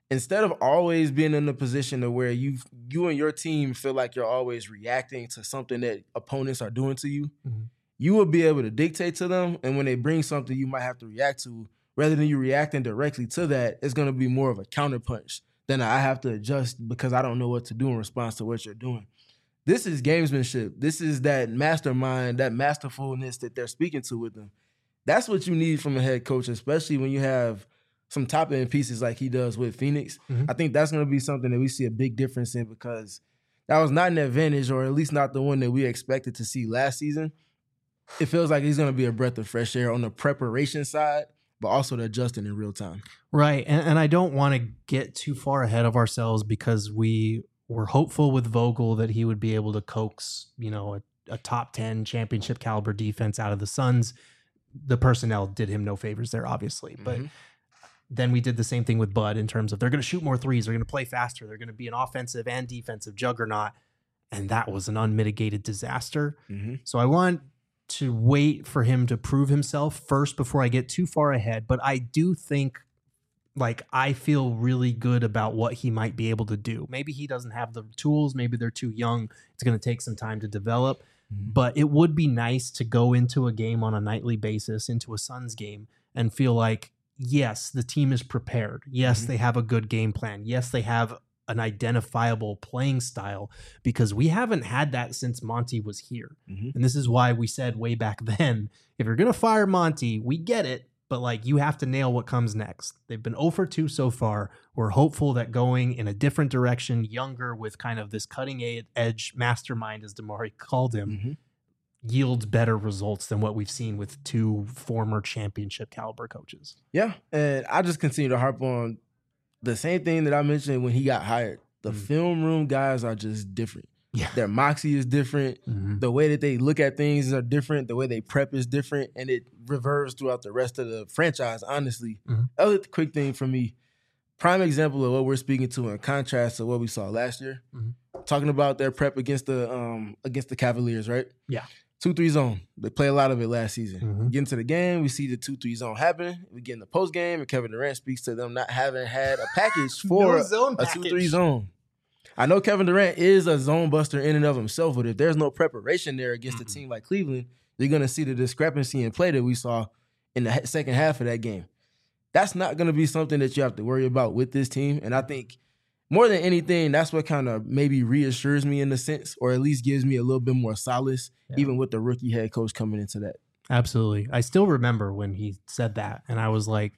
instead of always being in a position to where you you and your team feel like you're always reacting to something that opponents are doing to you, mm-hmm. you will be able to dictate to them. And when they bring something you might have to react to, rather than you reacting directly to that, it's going to be more of a counterpunch than I have to adjust because I don't know what to do in response to what you're doing. This is gamesmanship. This is that mastermind, that masterfulness that they're speaking to with them. That's what you need from a head coach, especially when you have some top-end pieces like he does with Phoenix. Mm-hmm. I think that's going to be something that we see a big difference in because that was not an advantage, or at least not the one that we expected to see last season. It feels like he's going to be a breath of fresh air on the preparation side, but also the adjusting in real time. Right, and, and I don't want to get too far ahead of ourselves because we were hopeful with Vogel that he would be able to coax, you know, a, a top ten championship caliber defense out of the Suns. The personnel did him no favors there, obviously, but mm-hmm. then we did the same thing with Bud in terms of they're going to shoot more threes, they're going to play faster, they're going to be an offensive and defensive juggernaut, and that was an unmitigated disaster. Mm-hmm. So I want to wait for him to prove himself first before I get too far ahead, but I do think, like, I feel really good about what he might be able to do. Maybe he doesn't have the tools, maybe they're too young, it's going to take some time to develop, mm-hmm. but it would be nice to go into a game on a nightly basis, into a Suns game, and feel like, yes, the team is prepared. Yes, mm-hmm. they have a good game plan. Yes, they have an identifiable playing style, because we haven't had that since Monty was here. Mm-hmm. And this is why we said way back then, if you're going to fire Monty, we get it, but like you have to nail what comes next. They've been zero for two so far. We're hopeful that going in a different direction, younger, with kind of this cutting edge mastermind, as Damari called him, mm-hmm. yields better results than what we've seen with two former championship caliber coaches. Yeah, and I just continue to harp on the same thing that I mentioned when he got hired. The mm-hmm. film room guys are just different. Yeah. Their moxie is different. Mm-hmm. The way that they look at things are different. The way they prep is different, and it reverses throughout the rest of the franchise, honestly. Mm-hmm. Other quick thing for me, prime example of what we're speaking to in contrast to what we saw last year. Mm-hmm. Talking about their prep against the um, against the Cavaliers, right? Yeah. two three zone. They play a lot of it last season. Mm-hmm. Get into the game, we see the two three zone happen. We get in the post game, and Kevin Durant speaks to them not having had a package for no zone a two three zone. I know Kevin Durant is a zone buster in and of himself, but if there's no preparation there against mm-hmm. a team like Cleveland, you're going to see the discrepancy in play that we saw in the second half of that game. That's not going to be something that you have to worry about with this team. And I think more than anything, that's what kind of maybe reassures me in a sense, or at least gives me a little bit more solace, yeah. even with the rookie head coach coming into that. Absolutely. I still remember when he said that, and I was like,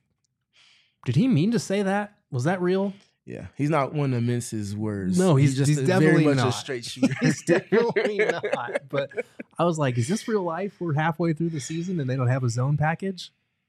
did he mean to say that? Was that real? Yeah, he's not one to mince his words. No, he's, he's just he's a, definitely very much not. a straight shooter. He's definitely not. But I was like, is this real life? We're halfway through the season and they don't have a zone package?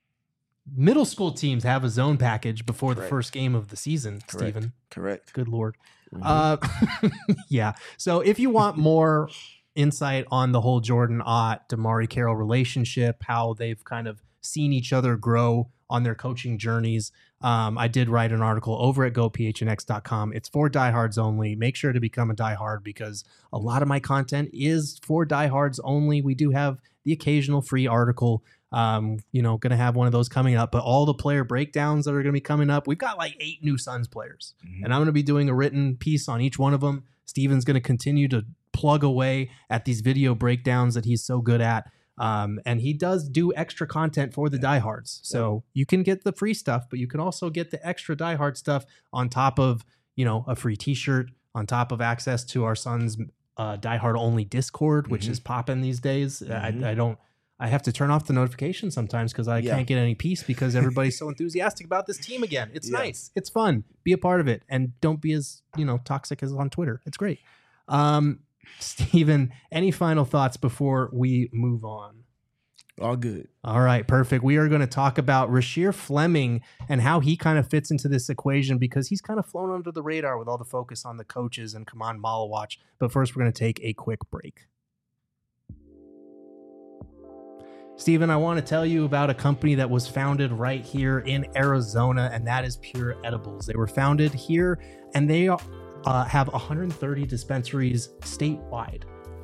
Middle school teams have a zone package before Correct. the first game of the season, Correct. Stephen. Correct. Good Lord. Mm-hmm. Uh, yeah. So if you want more insight on the whole Jordan Ott, Damari Carroll relationship, how they've kind of seen each other grow on their coaching journeys, Um, I did write an article over at go p h n x dot com. It's for diehards only. Make sure to become a diehard because a lot of my content is for diehards only. We do have the occasional free article. Um, you know, going to have one of those coming up, but all the player breakdowns that are going to be coming up, we've got like eight new Suns players, mm-hmm. and I'm going to be doing a written piece on each one of them. Steven's going to continue to plug away at these video breakdowns that he's so good at. Um, and he does do extra content for the diehards. So you can get the free stuff, but you can also get the extra diehard stuff on top of, you know, a free t-shirt, on top of access to our Suns uh, diehard only Discord, which mm-hmm. is popping these days. Mm-hmm. I, I don't, I have to turn off the notifications sometimes because I yeah. can't get any peace because everybody's so enthusiastic about this team again. It's yeah. nice. It's fun. Be a part of it. And don't be as, you know, toxic as on Twitter. It's great. Um, Steven, any final thoughts before we move on? All good. All right, perfect. We are going to talk about Rasheer Fleming and how he kind of fits into this equation because he's kind of flown under the radar with all the focus on the coaches and Kaman Malawach. But first, we're going to take a quick break. Steven, I want to tell you about a company that was founded right here in Arizona, and that is Pure Edibles. They were founded here, and they are Uh, have one hundred thirty dispensaries statewide.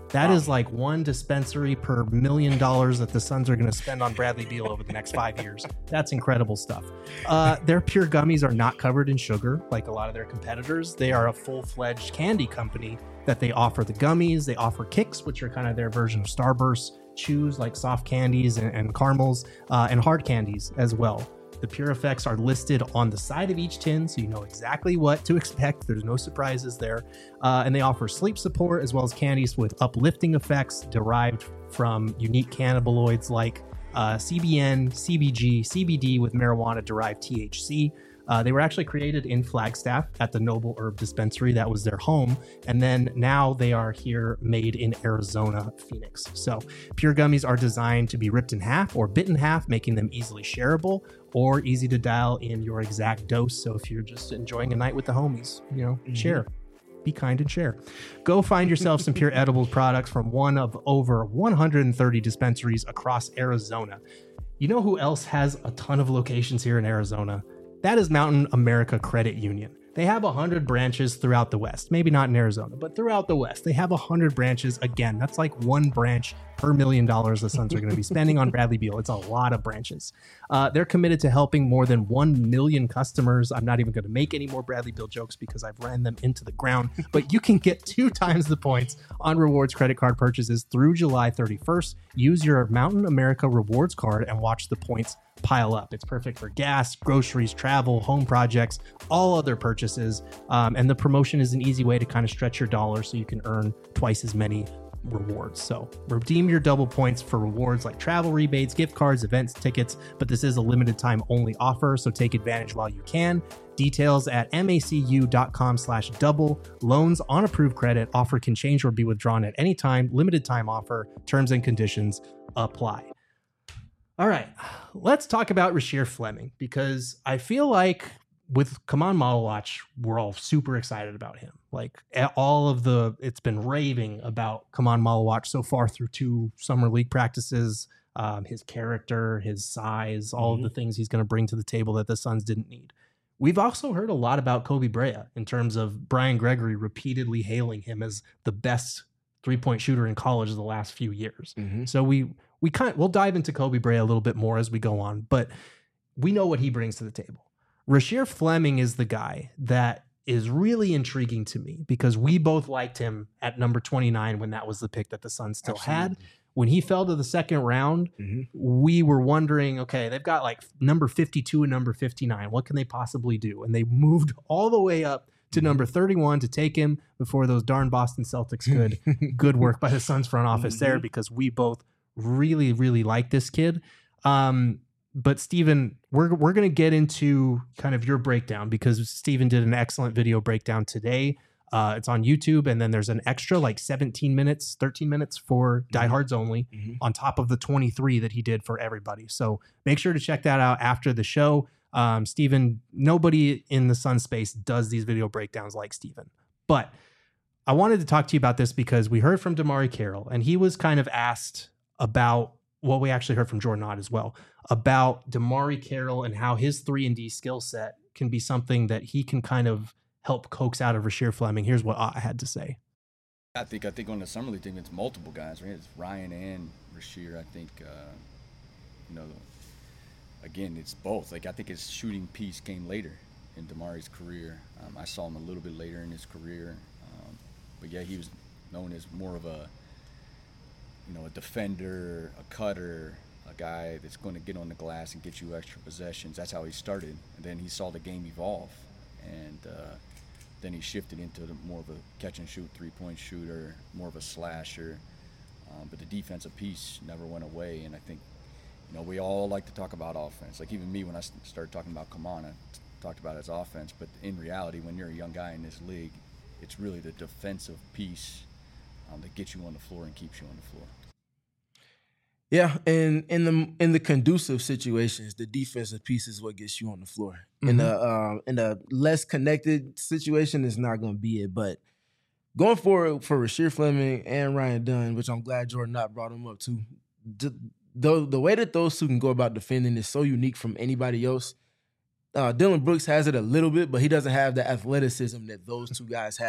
That wow. is like one dispensary per million dollars that the Suns are going to spend on Bradley Beal over the next five years. That's incredible stuff. Uh, their pure gummies are not covered in sugar like a lot of their competitors. They are a full-fledged candy company that they offer the gummies. They offer kicks, which are kind of their version of Starburst, chews like soft candies and, and caramels, uh, and hard candies as well. The Pure Effects are listed on the side of each tin, so you know exactly what to expect. There's no surprises there. Uh, and they offer sleep support as well as candies with uplifting effects derived from unique cannabinoids like uh, C B N, C B G, C B D with marijuana-derived T H C. Uh, they were actually created in Flagstaff at the Noble Herb Dispensary. That was their home. And then now they are here made in Arizona, Phoenix. So Pure Gummies are designed to be ripped in half or bit in half, making them easily shareable or easy to dial in your exact dose. So if you're just enjoying a night with the homies, you know, mm-hmm. share. Be kind and share. Go find yourself some Pure Edibles products from one of over one hundred thirty dispensaries across Arizona. You know who else has a ton of locations here in Arizona? That is Mountain America Credit Union. They have one hundred branches throughout the West. Maybe not in Arizona, but throughout the West. They have one hundred branches. Again, that's like one branch per million dollars the Suns are going to be spending on Bradley Beal. It's a lot of branches. Uh, they're committed to helping more than one million customers. I'm not even going to make any more Bradley Beal jokes because I've ran them into the ground. But you can get two times the points on rewards credit card purchases through July thirty-first. Use your Mountain America rewards card and watch the points pile up. It's perfect for gas, groceries, travel, home projects, all other purchases. Um, and the promotion is an easy way to kind of stretch your dollar so you can earn twice as many rewards. So redeem your double points for rewards like travel rebates, gift cards, events, tickets, but this is a limited time only offer, so take advantage while you can. Details at macu.com slash double. Loans on approved credit. Offer can change or be withdrawn at any time. Limited time offer. Terms and conditions apply. All right, let's talk about Rasheer Fleming, because I feel like with Come On Model Watch, we're all super excited about him. Like all of the, it's been raving about Come On Model Watch so far through two summer league practices, um, his character, his size, all mm-hmm. of the things he's going to bring to the table that the Suns didn't need. We've also heard a lot about Kobe Brea in terms of Brian Gregory repeatedly hailing him as the best three-point shooter in college the last few years. Mm-hmm. So we we kind we'll dive into Kobe Brea a little bit more as we go on, but we know what he brings to the table. Rasheer Fleming is the guy that is really intriguing to me because we both liked him at number twenty-nine when that was the pick that the Suns still Absolutely. had. When he fell to the second round, mm-hmm. we were wondering, okay, they've got like number fifty-two and number fifty-nine. What can they possibly do? And they moved all the way up to number thirty-one to take him before those darn Boston Celtics could. Good work by the Suns front office mm-hmm. there, because we both really, really like this kid. Um, but Steven, we're we're going to get into kind of your breakdown, because Steven did an excellent video breakdown today. Uh, it's on YouTube, and then there's an extra like seventeen minutes, thirteen minutes for mm-hmm. diehards only mm-hmm. on top of the twenty-three that he did for everybody. So make sure to check that out after the show. Um, Steven, nobody in the Sun space does these video breakdowns like Steven. But I wanted to talk to you about this because we heard from DeMarre Carroll, and he was kind of asked about what we actually heard from Jordan Ott as well, about DeMarre Carroll and how his three and D skill set can be something that he can kind of help coax out of Rasheer Fleming. Here's what Ott had to say. I think I think on the summer league team, it's multiple guys, right? It's Ryan and Rasheer. I think, uh, you know, again, it's both. Like, I think his shooting piece came later in DeMarre's career. Um, I saw him a little bit later in his career. Um, but, yeah, he was known as more of a, you know, a defender, a cutter, a guy that's going to get on the glass and get you extra possessions. That's how he started. And then he saw the game evolve. And uh, then he shifted into the more of a catch-and-shoot three-point shooter, more of a slasher. Um, but the defensive piece never went away. And I think, you know, we all like to talk about offense. Like, even me, when I started talking about Kaman, I talked about his offense. But in reality, when you're a young guy in this league, it's really the defensive piece um, that gets you on the floor and keeps you on the floor. Yeah, and in the in the conducive situations, the defensive piece is what gets you on the floor. Mm-hmm. In the uh, in the less connected situation, it's not going to be it. But going forward for Rasheer Fleming and Ryan Dunn, which I'm glad Jordan Ott brought him up too, the, the the way that those two can go about defending is so unique from anybody else. Uh, Dylan Brooks has it a little bit, but he doesn't have the athleticism that those two guys have.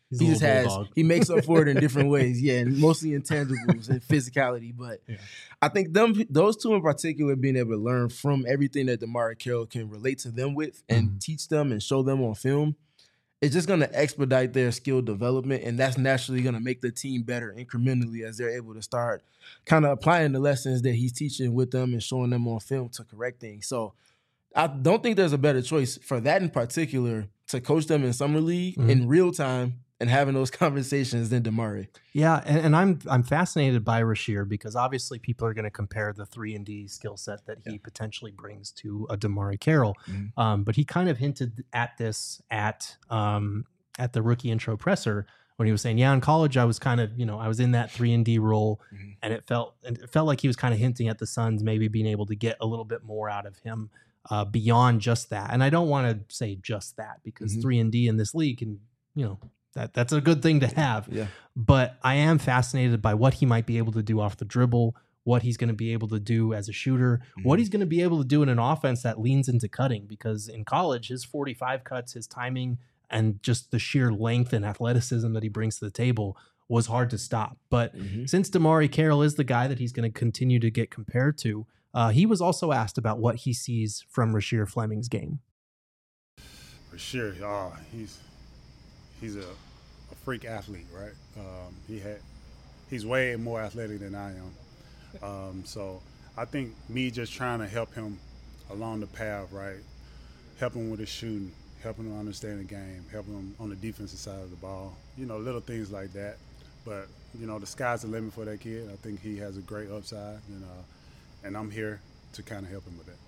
He's he just has bulldog. he makes up for it in different ways. Yeah, and mostly intangibles and physicality. But yeah. I think them those two in particular being able to learn from everything that DeMarre Carroll can relate to them with and mm. teach them and show them on film, it's just going to expedite their skill development, and that's naturally going to make the team better incrementally as they're able to start kind of applying the lessons that he's teaching with them and showing them on film to correct things. So I don't think there's a better choice for that in particular to coach them in summer league mm-hmm. in real time and having those conversations than DeMarre. Yeah, and, and I'm I'm fascinated by Rasheer because obviously people are going to compare the three and D skill set that he yeah. potentially brings to a DeMarre Carroll. Mm-hmm. Um, but he kind of hinted at this at um, at the rookie intro presser when he was saying, yeah, in college I was kind of, you know, I was in that three and D role mm-hmm. and it felt and it felt like he was kind of hinting at the Suns maybe being able to get a little bit more out of him uh, beyond just that. And I don't want to say just that because mm-hmm. three and D in this league can, you know, That that's a good thing to have. Yeah. But I am fascinated by what he might be able to do off the dribble, what he's going to be able to do as a shooter, mm-hmm. what he's going to be able to do in an offense that leans into cutting. Because in college, his forty-five cuts, his timing, and just the sheer length and athleticism that he brings to the table was hard to stop. But mm-hmm. since DeMarre Carroll is the guy that he's going to continue to get compared to, uh, he was also asked about what he sees from Rasheer Fleming's game. Rasheer, oh, he's... He's a, a freak athlete, right? Um, he had, he's way more athletic than I am. Um, so I think me just trying to help him along the path, right? Helping with his shooting, helping him understand the game, helping him on the defensive side of the ball. You know, little things like that. But, you know, the sky's the limit for that kid. I think he has a great upside, you know, and I'm here to kind of help him with that.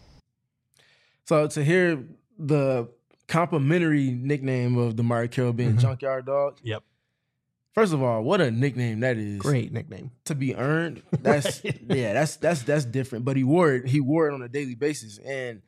So to hear the complimentary nickname of DeMarre Carroll being mm-hmm. Junkyard Dog. Yep. First of all, what a nickname that is. Great nickname. To be earned. That's yeah, that's that's that's different. But he wore it, he wore it on a daily basis. And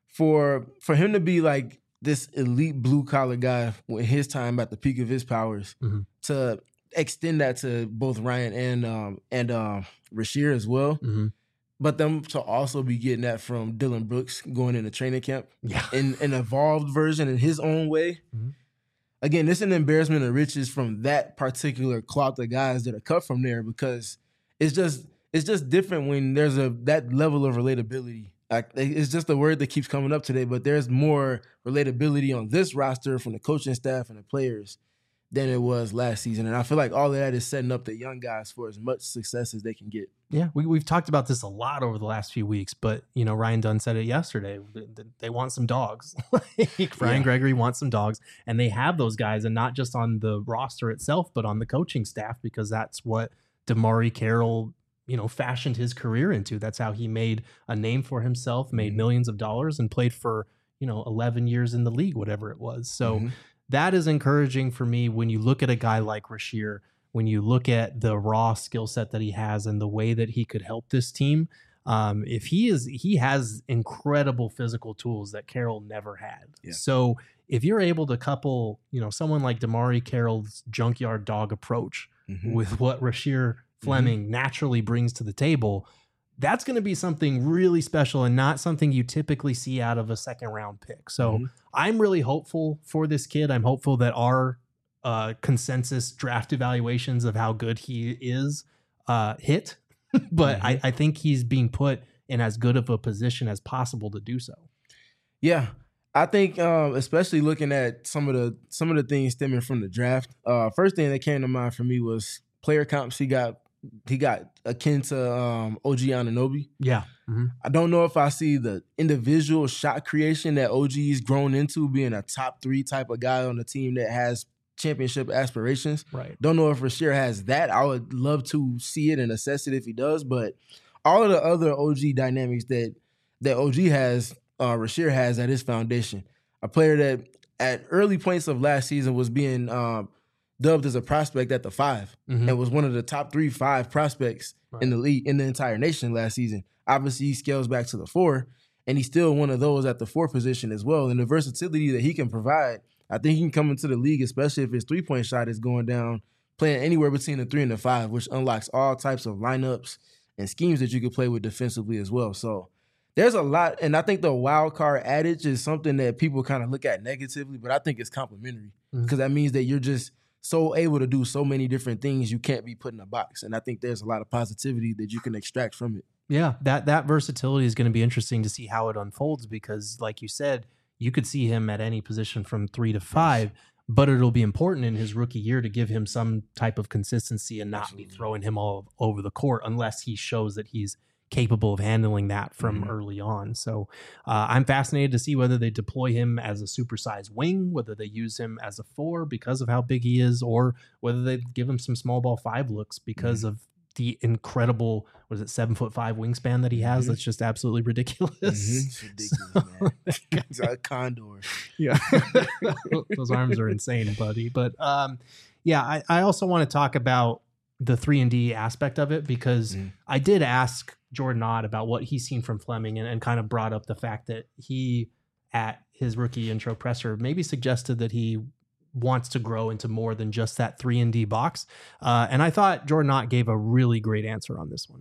for for him to be like this elite blue collar guy with his time at the peak of his powers, mm-hmm. to extend that to both Ryan and um and um Rasheer as well. Mm-hmm. But them to also be getting that from Dylan Brooks going into training camp yeah. in an evolved version in his own way. Mm-hmm. Again, it's an embarrassment of riches from that particular cloth of guys that are cut from there because it's just it's just different when there's a that level of relatability. Like, it's just a word that keeps coming up today, but there's more relatability on this roster from the coaching staff and the players than it was last season. And I feel like all of that is setting up the young guys for as much success as they can get. Yeah, we, we've talked about this a lot over the last few weeks, but, you know, Ryan Dunn said it yesterday. They, they want some dogs. Ryan yeah. Gregory wants some dogs, and they have those guys, and not just on the roster itself, but on the coaching staff, because that's what DeMarre Carroll, you know, fashioned his career into. That's how he made a name for himself, made mm-hmm. millions of dollars, and played for, you know, eleven years in the league, whatever it was. So mm-hmm. that is encouraging for me when you look at a guy like Rasheer, when you look at the raw skill set that he has and the way that he could help this team. Um, if he is, he has incredible physical tools that Carroll never had. Yeah. So if you're able to couple, you know, someone like DeMarre Carroll's junkyard dog approach mm-hmm. with what Rasheer Fleming mm-hmm. naturally brings to the table, that's going to be something really special and not something you typically see out of a second round pick. So mm-hmm. I'm really hopeful for this kid. I'm hopeful that our uh, consensus draft evaluations of how good he is uh, hit, but mm-hmm. I, I think he's being put in as good of a position as possible to do so. Yeah. I think, um, especially looking at some of the some of the things stemming from the draft, uh, first thing that came to mind for me was player comps he got He got akin to um, O G Anunoby. Yeah. Mm-hmm. I don't know if I see the individual shot creation that O G's grown into, being a top three type of guy on the team that has championship aspirations. Right. Don't know if Rasheer has that. I would love to see it and assess it if he does. But all of the other O G dynamics that that O G has, uh, Rasheer has at his foundation. A player that at early points of last season was being um, dubbed as a prospect at the five mm-hmm. and was one of the top three, five prospects right. in the league, in the entire nation last season. Obviously, he scales back to the four, and he's still one of those at the four position as well. And the versatility that he can provide, I think he can come into the league, especially if his three-point shot is going down, playing anywhere between the three and the five, which unlocks all types of lineups and schemes that you could play with defensively as well. So there's a lot, and I think the wild card adage is something that people kind of look at negatively, but I think it's complimentary because mm-hmm. that means that you're just so able to do so many different things, you can't be put in a box. And I think there's a lot of positivity that you can extract from it. Yeah, that that versatility is going to be interesting to see how it unfolds because, like you said, you could see him at any position from three to five, but it'll be important in his rookie year to give him some type of consistency and not Absolutely. be throwing him all over the court unless he shows that he's capable of handling that from mm-hmm. early on. So uh, I'm fascinated to see whether they deploy him as a supersized wing, whether they use him as a four because of how big he is, or whether they give him some small ball five looks because mm-hmm. of the incredible, what is it, seven foot five wingspan that he has. Mm-hmm. That's just absolutely ridiculous. Mm-hmm. It's ridiculous, man. He's a condor. Yeah. Those arms are insane, buddy. But um, yeah, I, I also want to talk about the three and D aspect of it because mm. I did ask Jordan Ott about what he's seen from Fleming and, and kind of brought up the fact that he, at his rookie intro presser, maybe suggested that he wants to grow into more than just that three and D box. Uh, and I thought Jordan Ott gave a really great answer on this one.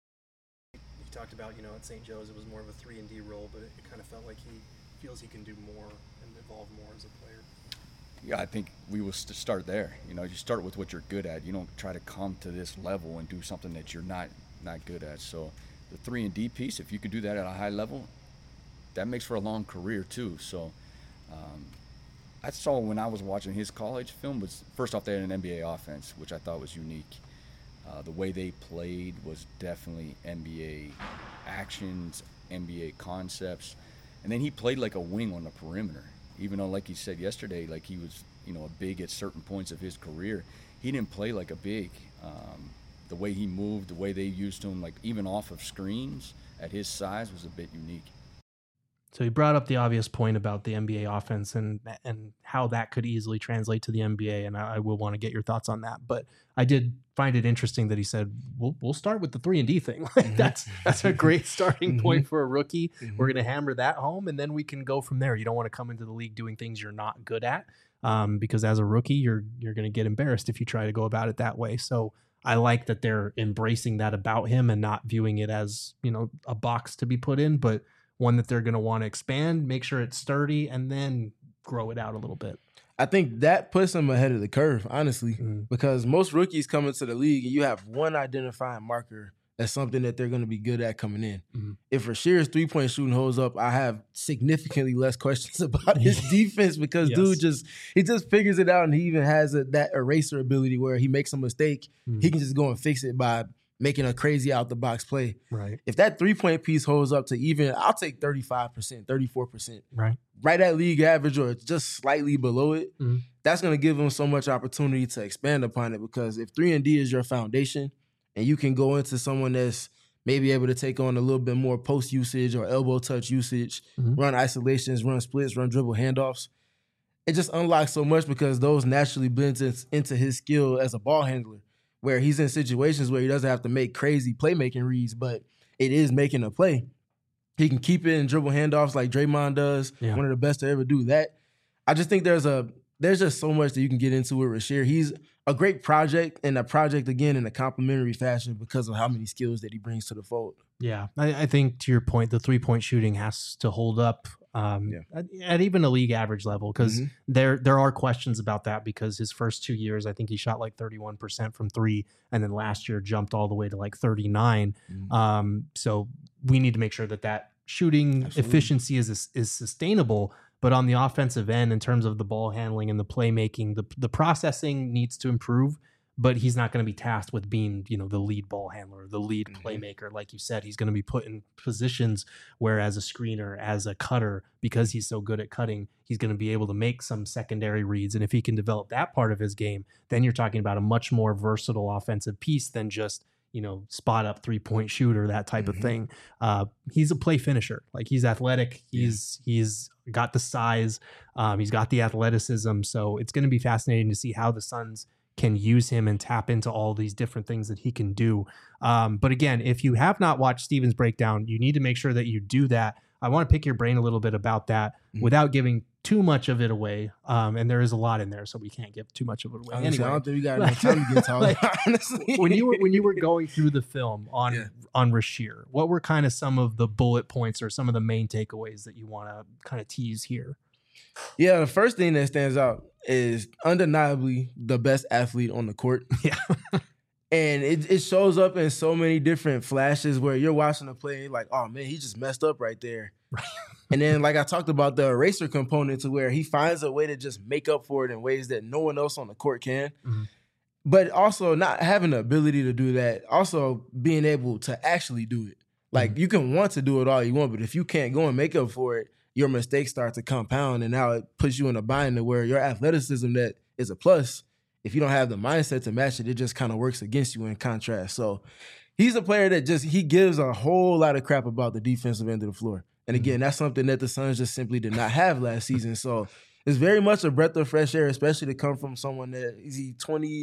He talked about, you know, at Saint Joe's, it was more of a three and D role, but it, it kind of felt like he feels he can do more and evolve more as a player. Yeah, I think we will start there. You know, you start with what you're good at. You don't try to come to this level and do something that you're not not good at. So the three and D piece, if you can do that at a high level, that makes for a long career too. So um, I saw when I was watching his college film was, first off, they had an N B A offense, which I thought was unique. Uh, the way they played was definitely N B A actions, N B A concepts. And then he played like a wing on the perimeter. Even though, like he said yesterday, like he was, you know, a big at certain points of his career, he didn't play like a big. Um, the way he moved, the way they used him, like even off of screens at his size was a bit unique. So he brought up the obvious point about the N B A offense and and how that could easily translate to the N B A, and I, I will want to get your thoughts on that. But I did find it interesting that he said, we'll, we'll start with the three and D thing. Like mm-hmm. That's that's a great starting point mm-hmm. for a rookie. Mm-hmm. We're going to hammer that home, and then we can go from there. You don't want to come into the league doing things you're not good at, um, because as a rookie, you're you're going to get embarrassed if you try to go about it that way. So I like that they're embracing that about him and not viewing it as, you know, a box to be put in, but one that they're going to want to expand, make sure it's sturdy, and then grow it out a little bit. I think that puts him ahead of the curve, honestly, mm-hmm. because most rookies come into the league and you have one identifying marker as something that they're going to be good at coming in. Mm-hmm. If Rashir's three-point shooting holds up, I have significantly less questions about his defense because yes. dude just he just figures it out, and he even has a, that eraser ability where he makes a mistake, mm-hmm. he can just go and fix it by making a crazy out-the-box play. Right. If that three-point piece holds up to even, I'll take thirty-five percent, thirty-four percent. Right. Right at league average or just slightly below it, mm-hmm. that's going to give him so much opportunity to expand upon it, because if three and D is your foundation and you can go into someone that's maybe able to take on a little bit more post usage or elbow touch usage, mm-hmm. run isolations, run splits, run dribble handoffs, it just unlocks so much because those naturally blend into his skill as a ball handler, where he's in situations where he doesn't have to make crazy playmaking reads, but it is making a play. He can keep it in dribble handoffs like Draymond does, yeah. one of the best to ever do that. I just think there's a there's just so much that you can get into with Rasheer. He's a great project, and a project, again, in a complimentary fashion because of how many skills that he brings to the fold. Yeah, I, I think to your point, the three-point shooting has to hold up um, yeah. at, at even a league average level, because mm-hmm. there there are questions about that, because his first two years, I think he shot like thirty-one percent from three, and then last year jumped all the way to like thirty-nine. Mm-hmm. Um, so we need to make sure that that shooting Absolutely. efficiency is is sustainable. But on the offensive end, in terms of the ball handling and the playmaking, the the processing needs to improve. But he's not going to be tasked with being, you know, the lead ball handler, the lead mm-hmm. playmaker. Like you said, he's going to be put in positions where, as a screener, as a cutter, because he's so good at cutting, he's going to be able to make some secondary reads. And if he can develop that part of his game, then you're talking about a much more versatile offensive piece than just, you know, spot up three point shooter, that type mm-hmm. of thing. Uh, he's a play finisher. Like, he's athletic. He's yeah. he's got the size. Um, he's got the athleticism. So it's going to be fascinating to see how the Suns can use him and tap into all these different things that he can do. Um, but again, if you have not watched Steven's breakdown, you need to make sure that you do that. I want to pick your brain a little bit about that mm-hmm. without giving too much of it away. Um, and there is a lot in there, so we can't give too much of it away. Honestly, anyway, I don't think we got enough time to get talking. Like, honestly, when you were when you were going through the film on yeah. on Rasheer, what were kind of some of the bullet points or some of the main takeaways that you want to kind of tease here? Yeah, the first thing that stands out is undeniably the best athlete on the court. Yeah. And it, it shows up in so many different flashes where you're watching the play and you're like, oh, man, he just messed up right there. Right. And then, like I talked about, the eraser component to where he finds a way to just make up for it in ways that no one else on the court can. Mm-hmm. But also not having the ability to do that, also being able to actually do it. Like, mm-hmm. you can want to do it all you want, but if you can't go and make up for it, your mistakes start to compound, and now it puts you in a bind to where your athleticism that is a plus, if you don't have the mindset to match it, it just kind of works against you in contrast. So he's a player that just, he gives a whole lot of crap about the defensive end of the floor. And again, that's something that the Suns just simply did not have last season. So it's very much a breath of fresh air, especially to come from someone that, is he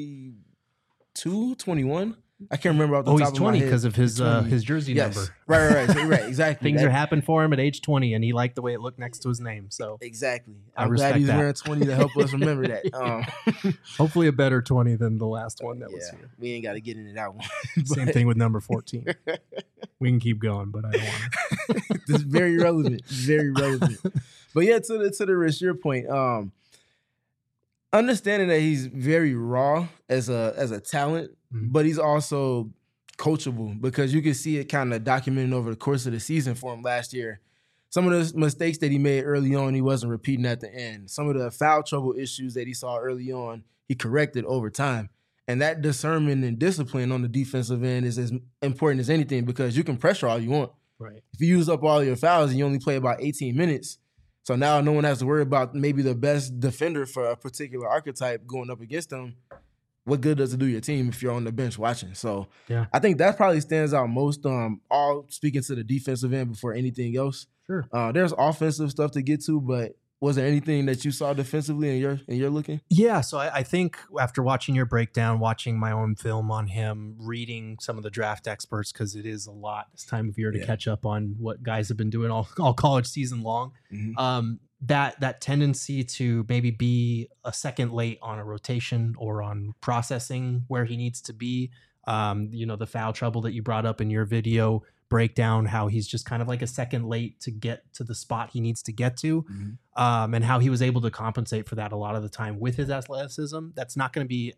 twenty-two, twenty-one? I can't remember off the oh, top of my head. Oh, he's twenty because of his uh, his jersey yes. number. Right, right, right. right exactly. Things that, are happening for him at age twenty, and he liked the way it looked next to his name. So exactly. I I'm respect glad he's that. wearing twenty to help us remember that. Um, Hopefully a better twenty than the last one that yeah, was here. We ain't got to get into that one. Same thing with number fourteen. We can keep going, but I don't want to. It's very relevant. Very relevant. But yeah, to the to the Rasheer point, um, understanding that he's very raw as a as a talent, mm-hmm. but he's also coachable, because you can see it kind of documented over the course of the season for him last year. Some of the mistakes that he made early on, he wasn't repeating at the end. Some of the foul trouble issues that he saw early on, he corrected over time. And that discernment and discipline on the defensive end is as important as anything, because you can pressure all you want. Right. If you use up all your fouls and you only play about eighteen minutes, so now no one has to worry about maybe the best defender for a particular archetype going up against them. What good does it do your team if you're on the bench watching? So yeah. I think that probably stands out most, um, all speaking to the defensive end before anything else. Sure. Uh, there's offensive stuff to get to, but was there anything that you saw defensively in your in your looking? Yeah, so I, I think after watching your breakdown, watching my own film on him, reading some of the draft experts, because it is a lot this time of year to yeah. catch up on what guys have been doing all, all college season long, mm-hmm. um, that that tendency to maybe be a second late on a rotation or on processing where he needs to be, um, you know, the foul trouble that you brought up in your video breakdown, how he's just kind of like a second late to get to the spot he needs to get to, mm-hmm. um, and how he was able to compensate for that a lot of the time with his athleticism. That's not going to be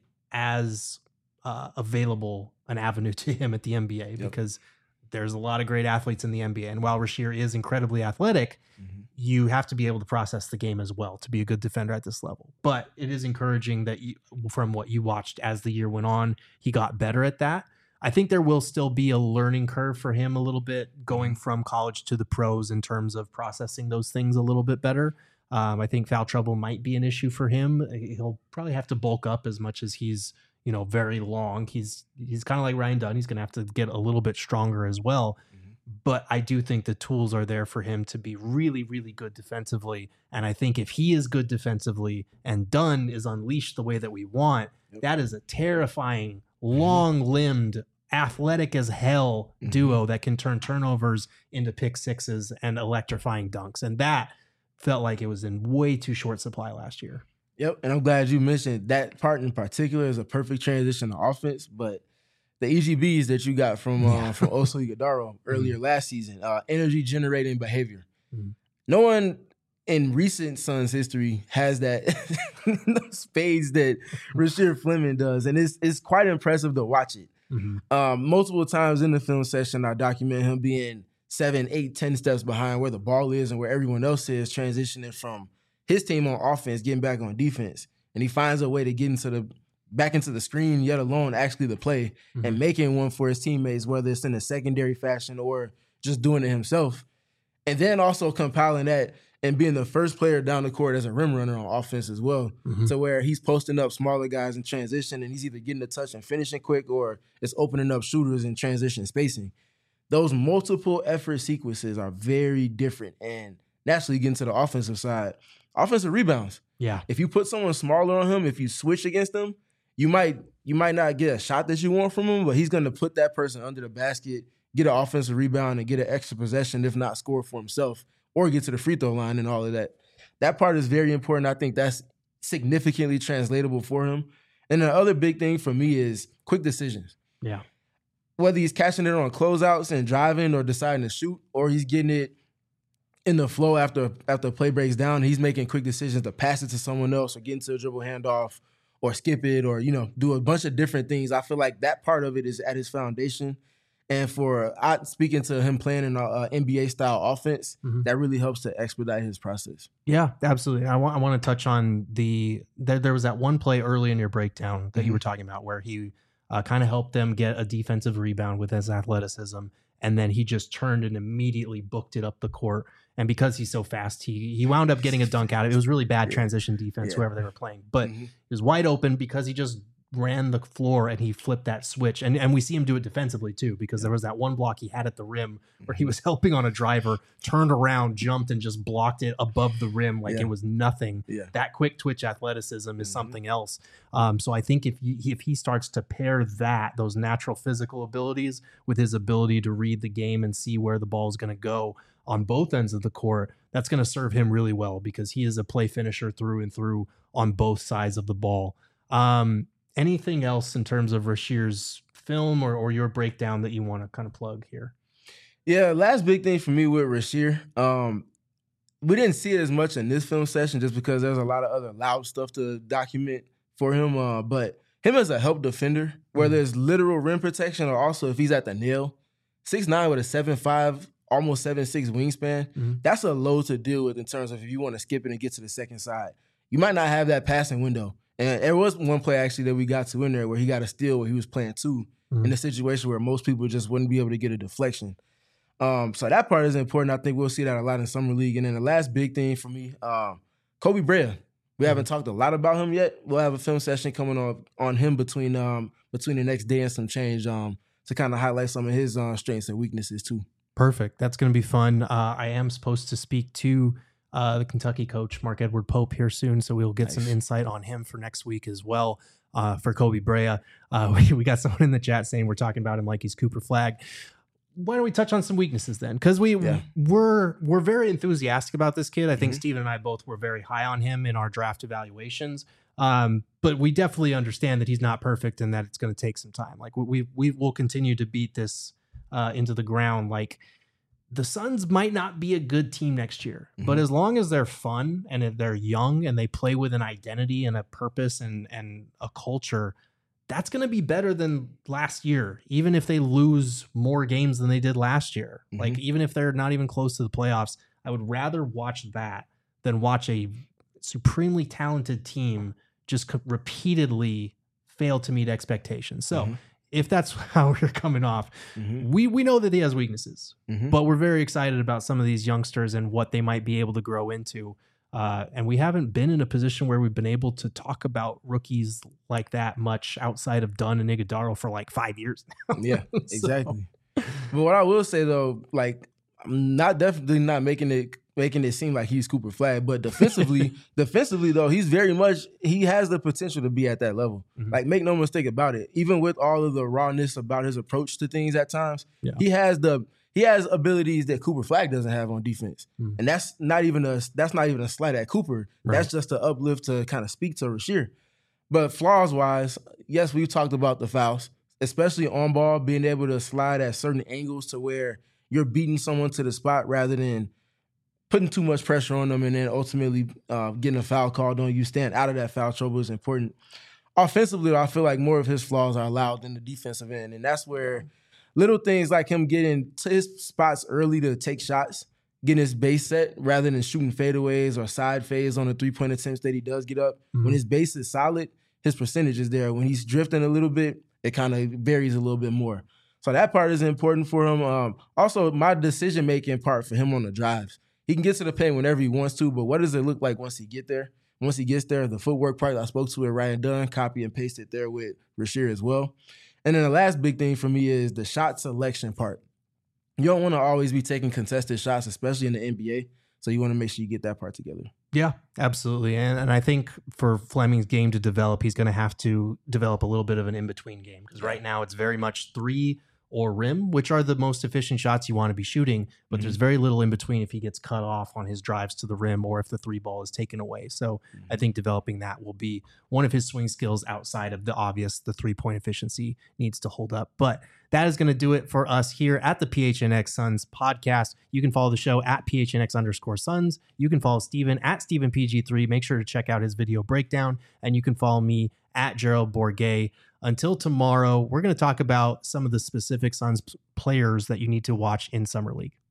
as uh, available an avenue to him at the N B A, yep. because there's a lot of great athletes in the N B A. And while Rasheer is incredibly athletic, mm-hmm. you have to be able to process the game as well to be a good defender at this level. But it is encouraging that you, from what you watched as the year went on, he got better at that. I think there will still be a learning curve for him a little bit going from college to the pros in terms of processing those things a little bit better. Um, I think foul trouble might be an issue for him. He'll probably have to bulk up as much as he's, you know, very long. He's he's kind of like Ryan Dunn. He's going to have to get a little bit stronger as well. Mm-hmm. But I do think the tools are there for him to be really, really good defensively. And I think if he is good defensively and Dunn is unleashed the way that we want, yep. that is a terrifying, long-limbed, athletic as hell duo mm-hmm. that can turn turnovers into pick sixes and electrifying dunks. And that felt like it was in way too short supply last year. Yep. And I'm glad you mentioned that part in particular is a perfect transition to offense. But the E G Bs that you got from, uh, from Oso Ighodaro earlier mm-hmm. last season, uh, energy generating behavior. Mm-hmm. No one in recent Suns history has that spades that Rasheer Fleming does. And it's, it's quite impressive to watch it. Mm-hmm. Um, multiple times in the film session, I document him being seven, eight, ten steps behind where the ball is and where everyone else is, transitioning from his team on offense, getting back on defense. And he finds a way to get into the back into the screen, yet alone actually the play, mm-hmm. and making one for his teammates, whether it's in a secondary fashion or just doing it himself. And then also compiling that and being the first player down the court as a rim runner on offense as well, mm-hmm. to where he's posting up smaller guys in transition and he's either getting a touch and finishing quick or it's opening up shooters in transition spacing. Those multiple effort sequences are very different. And naturally getting to the offensive side, offensive rebounds. Yeah. If you put someone smaller on him, if you switch against him, you might you might not get a shot that you want from him, but he's going to put that person under the basket, get an offensive rebound, and get an extra possession, if not score for himself, or get to the free throw line and all of that. That part is very important. I think that's significantly translatable for him. And the other big thing for me is quick decisions. Yeah. Whether he's catching it on closeouts and driving or deciding to shoot, or he's getting it in the flow after after play breaks down, he's making quick decisions to pass it to someone else or get into a dribble handoff or skip it or, you know, do a bunch of different things. I feel like that part of it is at his foundation. And for I, speaking to him playing in an N B A-style offense, mm-hmm. that really helps to expedite his process. Yeah, absolutely. I want I want to touch on the there, there was that one play early in your breakdown that mm-hmm. you were talking about where he uh, kind of helped them get a defensive rebound with his athleticism, and then he just turned and immediately booked it up the court. And because he's so fast, he he wound up getting a dunk out of it. It was really bad transition defense, yeah. whoever they were playing. But mm-hmm. it was wide open because he just ran the floor and he flipped that switch. And and we see him do it defensively too, because there was that one block he had at the rim where he was helping on a driver, turned around, jumped, and just blocked it above the rim like yeah. it was nothing. Yeah. That quick twitch athleticism is mm-hmm. something else. Um, so I think if he, if he starts to pair that, those natural physical abilities with his ability to read the game and see where the ball is going to go on both ends of the court, that's going to serve him really well because he is a play finisher through and through on both sides of the ball. Um, anything else in terms of Rashir's film or, or your breakdown that you want to kind of plug here? Yeah, last big thing for me with Rasheer, um, we didn't see it as much in this film session just because there's a lot of other loud stuff to document for him. Uh, but him as a help defender, where mm-hmm. there's literal rim protection or also if he's at the nail, six nine with a seven five, almost seven six wingspan, mm-hmm. that's a load to deal with in terms of if you want to skip it and get to the second side. You might not have that passing window. And there was one play actually that we got to in there where he got a steal where he was playing two mm-hmm. in a situation where most people just wouldn't be able to get a deflection. Um, so that part is important. I think we'll see that a lot in Summer League. And then the last big thing for me, um, Kobe Brea. We mm-hmm. haven't talked a lot about him yet. We'll have a film session coming on on him between um, between the next day and some change um, to kind of highlight some of his uh, strengths and weaknesses too. Perfect. That's going to be fun. Uh, I am supposed to speak to uh, the Kentucky coach, Mark Edward Pope, here soon, so we'll get nice. some insight on him for next week as well. Uh, for Kobe Brea, uh, we, we got someone in the chat saying we're talking about him like he's Cooper Flagg. Why don't we touch on some weaknesses then? Because we yeah. we're we're very enthusiastic about this kid. I think mm-hmm. Steven and I both were very high on him in our draft evaluations. Um, but we definitely understand that he's not perfect and that it's going to take some time. Like we we will continue to beat this uh, into the ground. Like the Suns might not be a good team next year, mm-hmm. but as long as they're fun and they're young and they play with an identity and a purpose and and a culture, that's going to be better than last year, even if they lose more games than they did last year. Mm-hmm. Like, even if they're not even close to the playoffs, I would rather watch that than watch a supremely talented team just co- repeatedly fail to meet expectations. So mm-hmm. if that's how we're coming off, mm-hmm. we, we know that he has weaknesses, mm-hmm. but we're very excited about some of these youngsters and what they might be able to grow into. Uh, and we haven't been in a position where we've been able to talk about rookies like that much outside of Dunn and Iguodala for like five years now. Yeah, exactly. So. But what I will say though, like, I'm not definitely not making it making it seem like he's Cooper Flagg, but defensively, defensively though, he's very much he has the potential to be at that level. Mm-hmm. Like, make no mistake about it. Even with all of the rawness about his approach to things at times, yeah. he has the. He has abilities that Cooper Flagg doesn't have on defense. Mm. And that's not even a that's not even a slight at Cooper. Right. That's just an uplift to kind of speak to Rasheer. But flaws-wise, yes, we've talked about the fouls, especially on ball, being able to slide at certain angles to where you're beating someone to the spot rather than putting too much pressure on them and then ultimately uh, getting a foul called on you. Staying out of that foul trouble is important. Offensively, I feel like more of his flaws are allowed than the defensive end, and that's where little things like him getting to his spots early to take shots, getting his base set rather than shooting fadeaways or side fades on the three-point attempts that he does get up. Mm-hmm. When his base is solid, his percentage is there. When he's drifting a little bit, it kind of varies a little bit more. So that part is important for him. Um, also, my decision-making part for him on the drives. He can get to the paint whenever he wants to, but what does it look like once he get there? Once he gets there, the footwork part I spoke to it, Ryan Dunn, copy and paste it there with Rasheer as well. And then the last big thing for me is the shot selection part. You don't want to always be taking contested shots, especially in the N B A. So you want to make sure you get that part together. Yeah, absolutely. And and I think for Fleming's game to develop, he's going to have to develop a little bit of an in-between game. Because right now it's very much three or rim, which are the most efficient shots you want to be shooting, but mm-hmm. there's very little in between if he gets cut off on his drives to the rim or if the three ball is taken away. So mm-hmm. I think developing that will be one of his swing skills outside of the obvious, the three-point efficiency needs to hold up. But that is going to do it for us here at the P H N X Suns podcast. You can follow the show at P H N X underscore Suns. You can follow Steven at Steven P G three. Make sure to check out his video breakdown, and you can follow me at Gerald Bourguet. Until tomorrow, we're going to talk about some of the specific Suns players that you need to watch in Summer League.